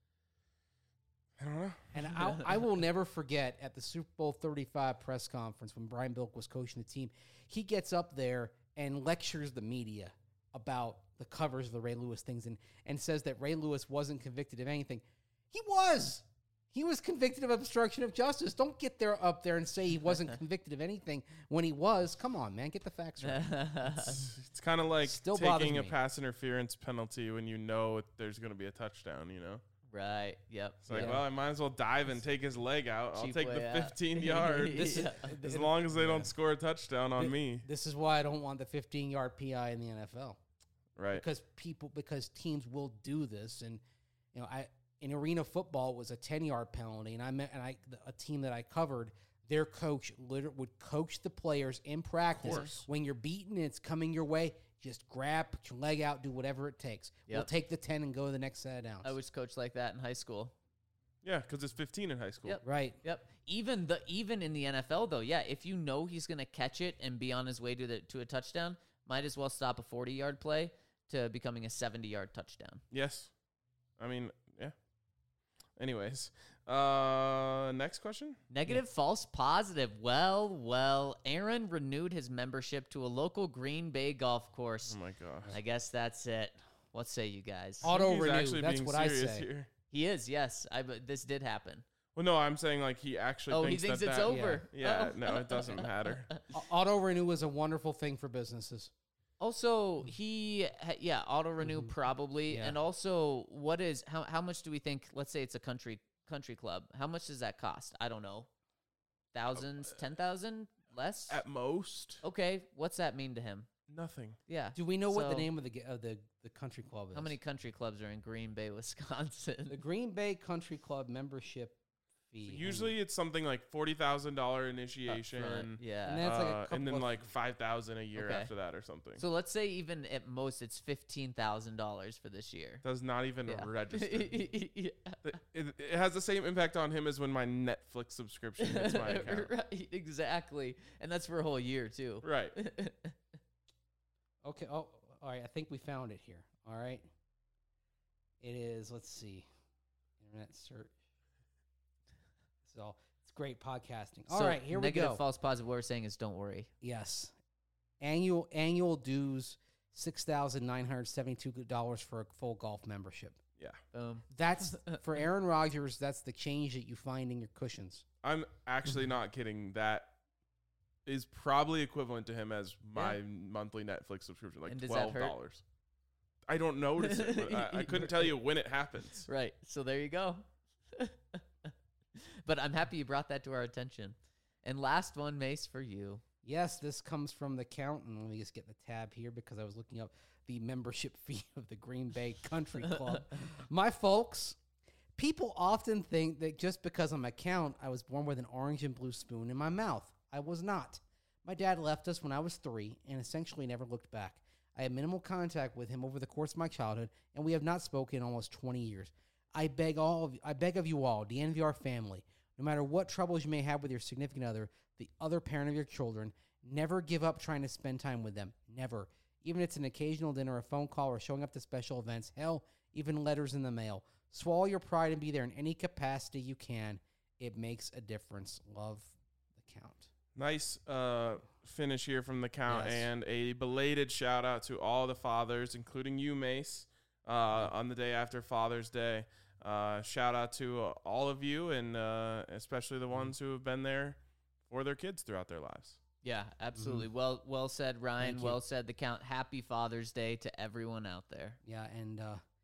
I don't know. And I will never forget at the Super Bowl 35 press conference when Brian Bilk was coaching the team, he gets up there and lectures the media about the covers of the Ray Lewis things and says that Ray Lewis wasn't convicted of anything. He was. He was convicted of obstruction of justice. Don't get up there and say he wasn't convicted of anything when he was. Come on, man. Get the facts right. It's kind of like Still bothers taking a me. pass interference penalty when you know there's going to be a touchdown, you know? Right. Yep. It's like, Yeah. well, I might as well dive and take his leg out. I'll Cheap take way the out. 15 yards. Yeah. As long as they don't score a touchdown on me. This is why I don't want the 15-yard PI in the NFL. Right. Because teams will do this, and in arena football it was a 10-yard penalty, and a team that I covered, their coach would coach the players in practice. course. When you're beaten and it's coming your way, just grab, put your leg out, do whatever it takes. We'll Yep. take the 10 and go to the next set of downs. I was coached like that in high school. Yeah, because it's 15 in high school. Yep. right. Yep. Even in the NFL though, yeah, if you know he's gonna catch it and be on his way to a touchdown, might as well stop a 40-yard play to becoming a 70-yard touchdown. Yes. I mean, yeah. Anyways, next question. Negative, false, positive. Well, Aaron renewed his membership to a local Green Bay golf course. Oh my gosh. I guess that's it. What say you guys? Auto He's renew. actually That's being what I serious say. here. He is, yes. But this did happen. Well, no, I'm saying like he actually Oh, thinks he thinks that it's that- over. Yeah, Oh. no, it doesn't matter. Auto renew is a wonderful thing for businesses. Also, auto renew Mm-hmm. probably, Yeah. and also, how much do we think? Let's say it's a country club. How much does that cost? I don't know. Thousands, 10,000, less. At most, Okay, what's that mean to him? nothing. Yeah. Do we know what the So- name of the country club is? How many country clubs are in Green Bay, Wisconsin? The Green Bay Country Club membership fee. Usually, it's something like $40,000 initiation. Upfront, yeah. And that's like a and couple then of- like $5,000 a year Okay. after that or something. So let's say even at most it's $15,000 for this year. Does not even Yeah. register. Yeah. It has the same impact on him as when my Netflix subscription hits my account. Right, exactly, and that's for a whole year too. Right. Okay. Oh, all right. I think we found it here. All right. It is. Let's see. Internet search. So it's great podcasting. All right. Here we negative, go. false, positive. What we're saying is don't worry. Yes. Annual dues $6,972 for a full golf membership. Yeah. Boom. That's for Aaron Rodgers. That's the change that you find in your cushions. I'm actually not kidding. That is probably equivalent to him as my monthly Netflix subscription, like And does that $12. hurt? I don't notice it. But I couldn't tell you when it happens. Right. So there you go. But I'm happy you brought that to our attention. And last one, Mace, for you. Yes, this comes from the count, and let me just get the tab here because I was looking up the membership fee of the Green Bay Country Club. My folks, people often think that just because I'm a count, I was born with an orange and blue spoon in my mouth. I was not. My dad left us when I was 3 and essentially never looked back. I had minimal contact with him over the course of my childhood, and we have not spoken in almost 20 years. I beg of you all, the NVR family, no matter what troubles you may have with your significant other, the other parent of your children, never give up trying to spend time with them. Never. Even if it's an occasional dinner, a phone call, or showing up to special events. Hell, even letters in the mail. Swallow your pride and be there in any capacity you can. It makes a difference. Love, the count. Nice finish here from the count, Yes. and a belated shout out to all the fathers, including you, Mace, on the day after Father's Day. Shout out to all of you, and especially the ones who have been there for their kids throughout their lives. Yeah, absolutely. Well said, Ryan. Thank you. Well said, the count. Happy Father's Day to everyone out there. Yeah, and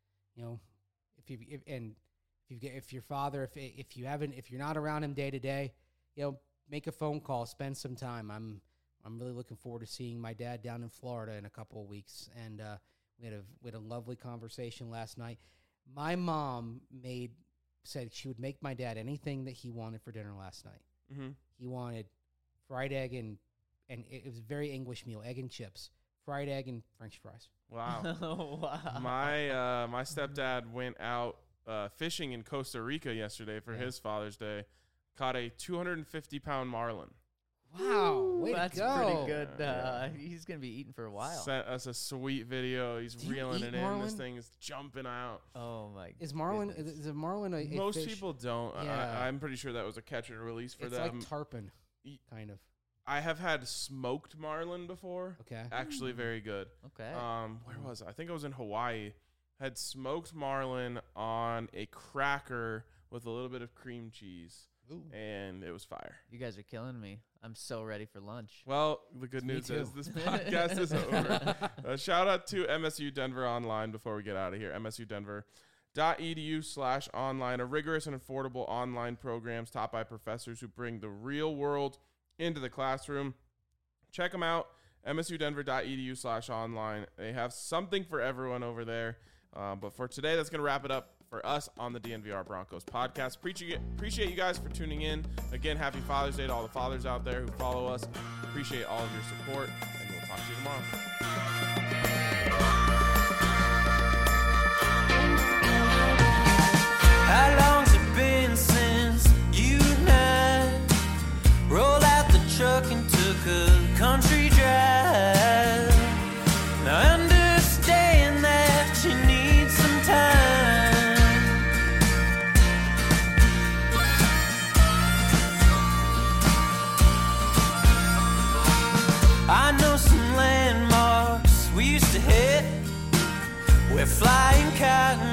if your father, if you're not around him day to day, make a phone call, spend some time. I'm really looking forward to seeing my dad down in Florida in a couple of weeks, and we had a lovely conversation last night. My mom said she would make my dad anything that he wanted for dinner last night. Mm-hmm. He wanted fried egg and it was a very English meal, egg and chips, fried egg and French fries. Wow. Wow. My stepdad went out fishing in Costa Rica yesterday for his Father's Day. Caught a 250-pound marlin. Wow, way That's to go. pretty good. Yeah. He's going to be eating for a while. Sent us a sweet video. He's Do you reeling eat it in. This marlin? thing is jumping out. Oh, my Is marlin goodness. is a marlin a Most fish? people don't. Yeah. I'm pretty sure that was a catch and release for It's them. like tarpon, Ye- kind of. I have had smoked marlin before. Okay. Actually, very good. Okay. Where was I? I think it was in Hawaii. Had smoked marlin on a cracker with a little bit of cream cheese, Ooh. and it was fire. You guys are killing me. I'm so ready for lunch. Well, the good Me news too. is this podcast is over. Shout out to MSU Denver Online before we get out of here. MSUdenver.edu/online, a rigorous and affordable online programs taught by professors who bring the real world into the classroom. Check them out, msudenver.edu/online. They have something for everyone over there. But for today, that's going to wrap it up for us on the DNVR Broncos podcast. Appreciate you guys for tuning in. Again, happy Father's Day to all the fathers out there who follow us. Appreciate all of your support, and we'll talk to you tomorrow. How long's it been since you and I rolled out the truck and took a country drive? Now I understand that you need some time. I know some landmarks we used to hit where flying cotton